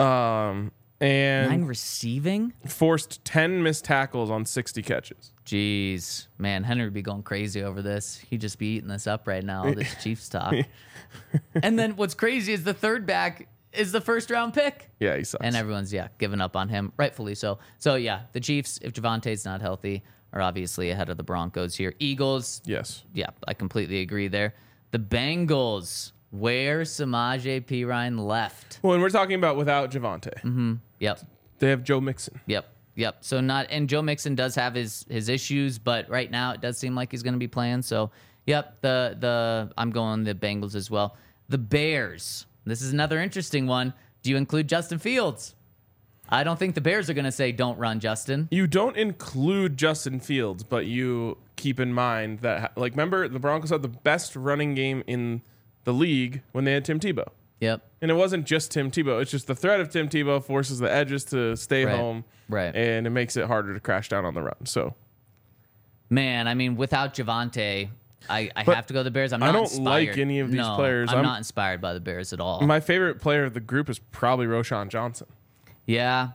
And 9 receiving? Forced 10 missed tackles on 60 catches. Jeez. Man, Henry would be going crazy over this. He'd just be eating this up right now, all this Chiefs talk. And then what's crazy is the third back is the first-round pick. Yeah, he sucks. And everyone's, giving up on him, rightfully so. So, yeah, the Chiefs, if Javonte's not healthy, are obviously ahead of the Broncos here. Eagles. Yes. Yeah, I completely agree there. The Bengals, where Samaje Perine left. Well, and we're talking about without Javonte. Yep. They have Joe Mixon. Yep. Yep. So and Joe Mixon does have his issues, but right now it does seem like he's going to be playing. So, yep, I'm going the Bengals as well. The Bears. This is another interesting one. Do you include Justin Fields? I don't think the Bears are going to say don't run, Justin. You don't include Justin Fields, but you keep in mind that, like, remember the Broncos had the best running game in the league when they had Tim Tebow. Yep. And it wasn't just Tim Tebow. It's just the threat of Tim Tebow forces the edges to stay home. Right. And it makes it harder to crash down on the run. So, man, I mean, without Javonte, I have to go the Bears. I'm not I don't inspired. like any of these players. I'm not inspired by the Bears at all. My favorite player of the group is probably Roschon Johnson. Yeah.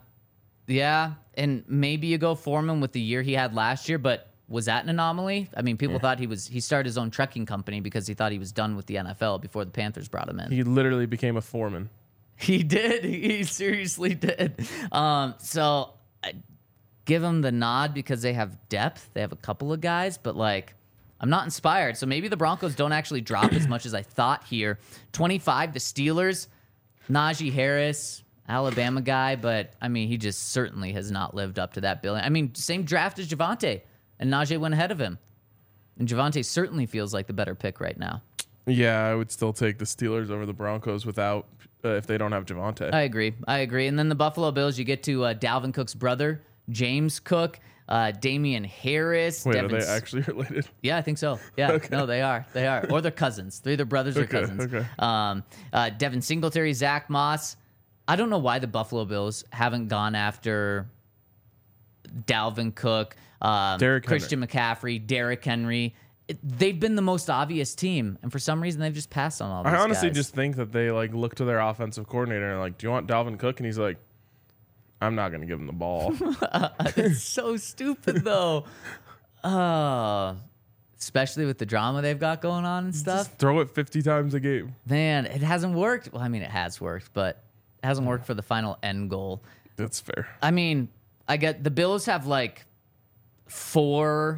And maybe you go Foreman with the year he had last year, but was that an anomaly? I mean, people thought he started his own trucking company because he thought he was done with the NFL before the Panthers brought him in. He literally became a foreman. He did. He seriously did. So I give him the nod because they have depth. They have a couple of guys, but like, I'm not inspired. So maybe the Broncos don't actually drop as much as I thought here. 25, the Steelers, Najee Harris, Alabama guy, but I mean, he just certainly has not lived up to that billing. I mean, same draft as Javonte, and Najee went ahead of him. And Javonte certainly feels like the better pick right now. Yeah, I would still take the Steelers over the Broncos without if they don't have Javonte. I agree. And then the Buffalo Bills, you get to Dalvin Cook's brother, James Cook, Damian Harris. Wait, are they actually related? Yeah, I think so. Yeah, Okay. No, they are. Or they're cousins. They're either brothers or cousins. Okay. Devin Singletary, Zach Moss. I don't know why the Buffalo Bills haven't gone after Dalvin Cook, Christian McCaffrey, Derrick Henry. They've been the most obvious team, and for some reason they've just passed on all these I honestly guys. just think that they like look to their offensive coordinator and like, do you want Dalvin Cook? And he's like, I'm not going to give him the ball. It's so stupid, though. Especially with the drama they've got going on and stuff. Just throw it 50 times a game. Man, it hasn't worked. Well, I mean, it has worked, but it hasn't worked for the final end goal. That's fair. I mean, I get the Bills have like 2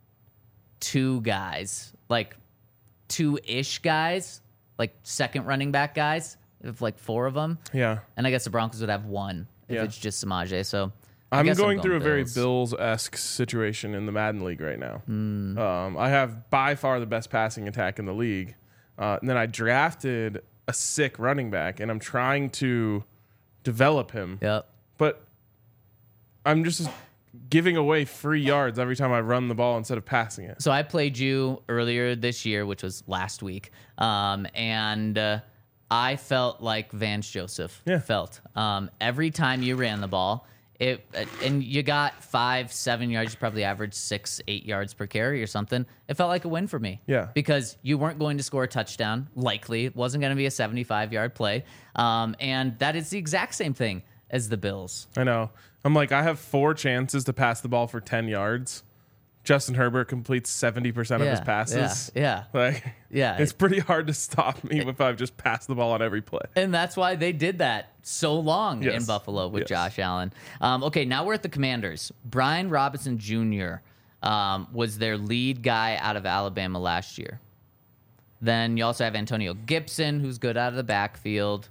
guys, like 2-ish guys, like second running back guys. If like 4 of them. Yeah. And I guess the Broncos would have 1 if Yeah. it's just Samaje. So I'm guess going through a very Bills. Bills-esque situation in the Madden League right now. I have by far the best passing attack in the league. And then I drafted a sick running back, and I'm trying to develop him. Yep. But I'm just giving away free yards every time I run the ball instead of passing it. So I played you earlier this year, which was last week, and I felt like Vance Joseph felt. Every time you ran the ball, and you got 5-7 yards, you probably averaged 6-8 yards per carry or something. It felt like a win for me. Yeah. Because you weren't going to score a touchdown, likely. It wasn't going to be a 75-yard play. And that is the exact same thing as the Bills. I know. I'm like, I have 4 chances to pass the ball for 10 yards. Justin Herbert completes 70% of his passes. Yeah. Yeah. It's pretty hard to stop me if I've just passed the ball on every play. And that's why they did that so long in Yes. Buffalo with Yes. Josh Allen. Okay, now we're at the Commanders. Brian Robinson Jr. Was their lead guy out of Alabama last year. Then you also have Antonio Gibson, who's good out of the backfield.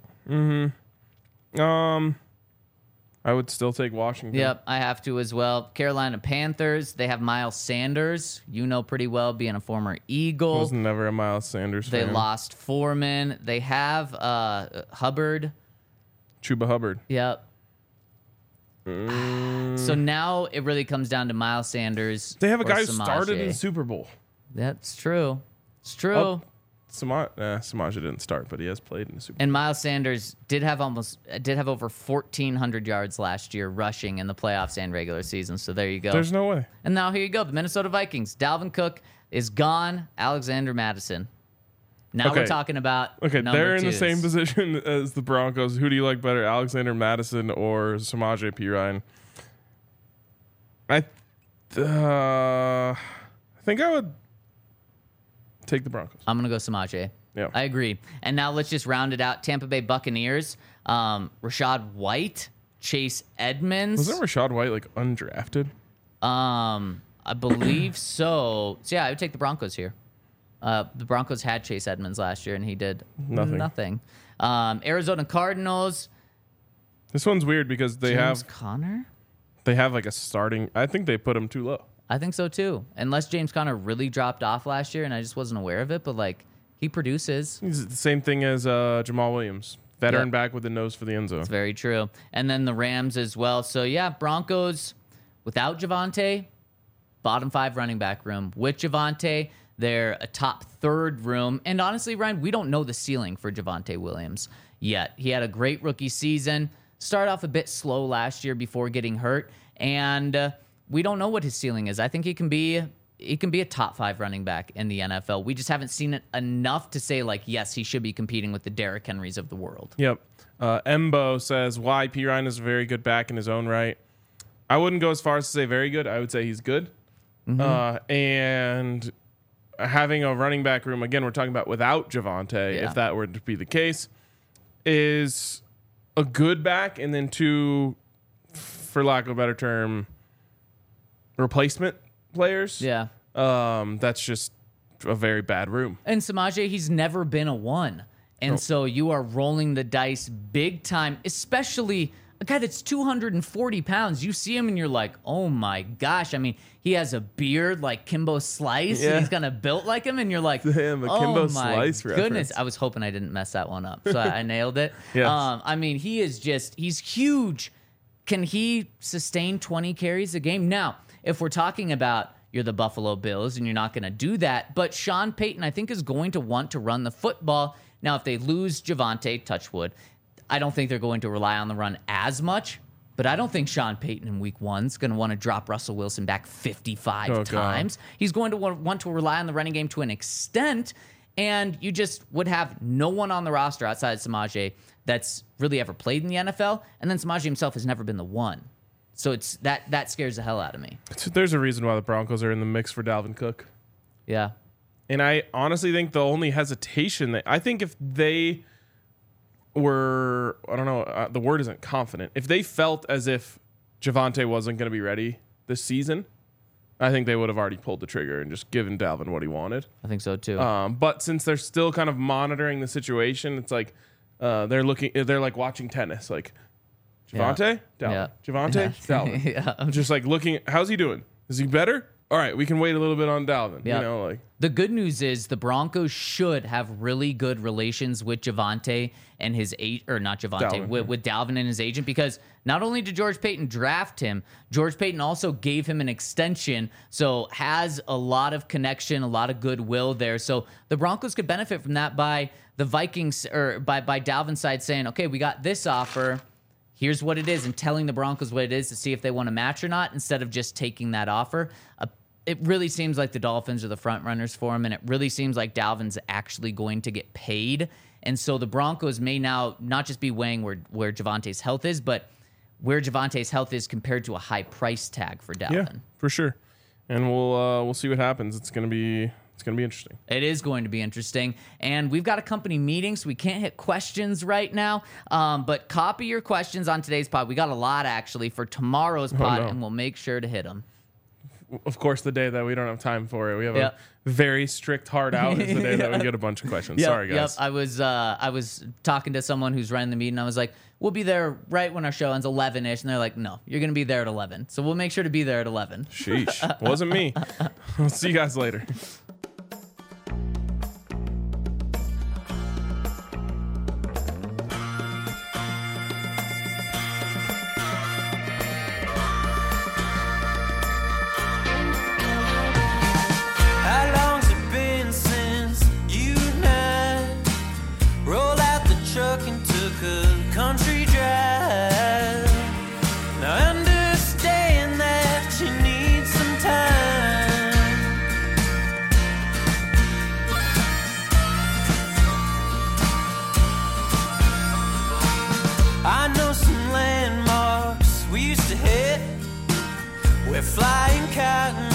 I would still take Washington. Yep, I have to as well. Carolina Panthers, they have Miles Sanders. You know pretty well, being a former I Eagle. was never a Miles Sanders They fan. lost Foreman. They have Hubbard. Chuba Hubbard. Yep. So now it really comes down to Miles Sanders. They have a or guy who Samaje. started in the Super Bowl. That's true. It's true. Oh, Samaje didn't start, but he has played in the Super Bowl. And Miles Sanders did have over 1,400 yards last year rushing in the playoffs and regular season. So there you go. There's no way. And now here you go. The Minnesota Vikings. Dalvin Cook is gone. Alexander Madison. Now we're Okay. talking about Okay, number they're in the twos. same position as the Broncos. Who do you like better, Alexander Madison or Samaje Perine? I think I would take the Broncos. I'm going to go Samaje. Yeah. I agree. And now let's just round it out. Tampa Bay Buccaneers. Rashad White. Chase Edmonds. Wasn't Rashad White like undrafted? I believe so. So yeah, I would take the Broncos here. The Broncos had Chase Edmonds last year, and he did nothing. Arizona Cardinals. This one's weird because they James have Conner. they have like a starting. I think they put him too low. I think so too. Unless James Conner really dropped off last year and I just wasn't aware of it, but like he produces. He's the same thing as Jamal Williams, veteran back with the nose for the end zone. It's very true. And then the Rams as well. So yeah, Broncos without Javonte, bottom 5 running back room. With Javonte, they're a top 3rd room. And honestly, Ryan, we don't know the ceiling for Javonte Williams yet. He had a great rookie season. Started off a bit slow last year before getting hurt, and we don't know what his ceiling is. I think he can be a top 5 running back in the NFL. We just haven't seen it enough to say like, yes, he should be competing with the Derrick Henrys of the world. Yep. Embo says why P. Ryan is a very good back in his own right. I wouldn't go as far as to say very good. I would say he's good. And having a running back room, again, we're talking about without Javonte, if that were to be the case, is a good back, and then 2, for lack of a better term, replacement players. Yeah. That's just a very bad room. And Samaje, he's never been a 1. And so you are rolling the dice big time, especially a guy that's 240 pounds. You see him and you're like, oh my gosh. I mean, he has a beard like Kimbo Slice. And he's kind of built like him. And you're like, Damn, a Kimbo Slice goodness. reference. I was hoping I didn't mess that one up. So I nailed it. Yes. I mean, he's huge. Can he sustain 20 carries a game? Now, if we're talking about you're the Buffalo Bills and you're not going to do that, but Sean Payton, I think, is going to want to run the football. Now, if they lose Javonte, touch wood, I don't think they're going to rely on the run as much, but I don't think Sean Payton in week 1 is going to want to drop Russell Wilson back 55 times. God. He's going to want to rely on the running game to an extent, and you just would have no one on the roster outside of Samaje that's really ever played in the NFL, and then Samaje himself has never been the one. So it's that scares the hell out of me. There's a reason why the Broncos are in the mix for Dalvin Cook. Yeah. And I honestly think the only hesitation I think if they were, I don't know, the word isn't confident. If they felt as if Javonte wasn't going to be ready this season, I think they would have already pulled the trigger and just given Dalvin what he wanted. I think so too. But since they're still kind of monitoring the situation, it's like they're like watching tennis. Like, Javonte? Dalvin. Javonte? Dalvin. I'm just like looking, how's he doing? Is he better? All right, we can wait a little bit on Dalvin. Yep. You know, like the good news is the Broncos should have really good relations with Javonte and his with Dalvin and his agent, because not only did George Paton draft him, George Paton also gave him an extension, so has a lot of connection, a lot of goodwill there. So the Broncos could benefit from that by the Vikings or by Dalvin's side saying, okay, we got this offer. Here's what it is, and telling the Broncos what it is to see if they want to match or not, instead of just taking that offer. It really seems like the Dolphins are the front runners for him, and it really seems like Dalvin's actually going to get paid. And so the Broncos may now not just be weighing where Javonte's health is, but where Javonte's health is compared to a high price tag for Dalvin. Yeah, for sure. And we'll see what happens. It's gonna be interesting. It is going to be interesting. And we've got a company meeting, so we can't hit questions right now. But copy your questions on today's pod. We got a lot, actually, for tomorrow's pod, and we'll make sure to hit them. Of course, the day that we don't have time for it, we have a very strict hard out is the day that we get a bunch of questions. Sorry, guys. I was talking to someone who's running the meeting. I was like, we'll be there right when our show ends, 11-ish. And they're like, no, you're going to be there at 11. So we'll make sure to be there at 11. Sheesh. Wasn't me. I'll see you guys later. Country drive. Now understand that you need some time. I know some landmarks we used to hit. We're flying cotton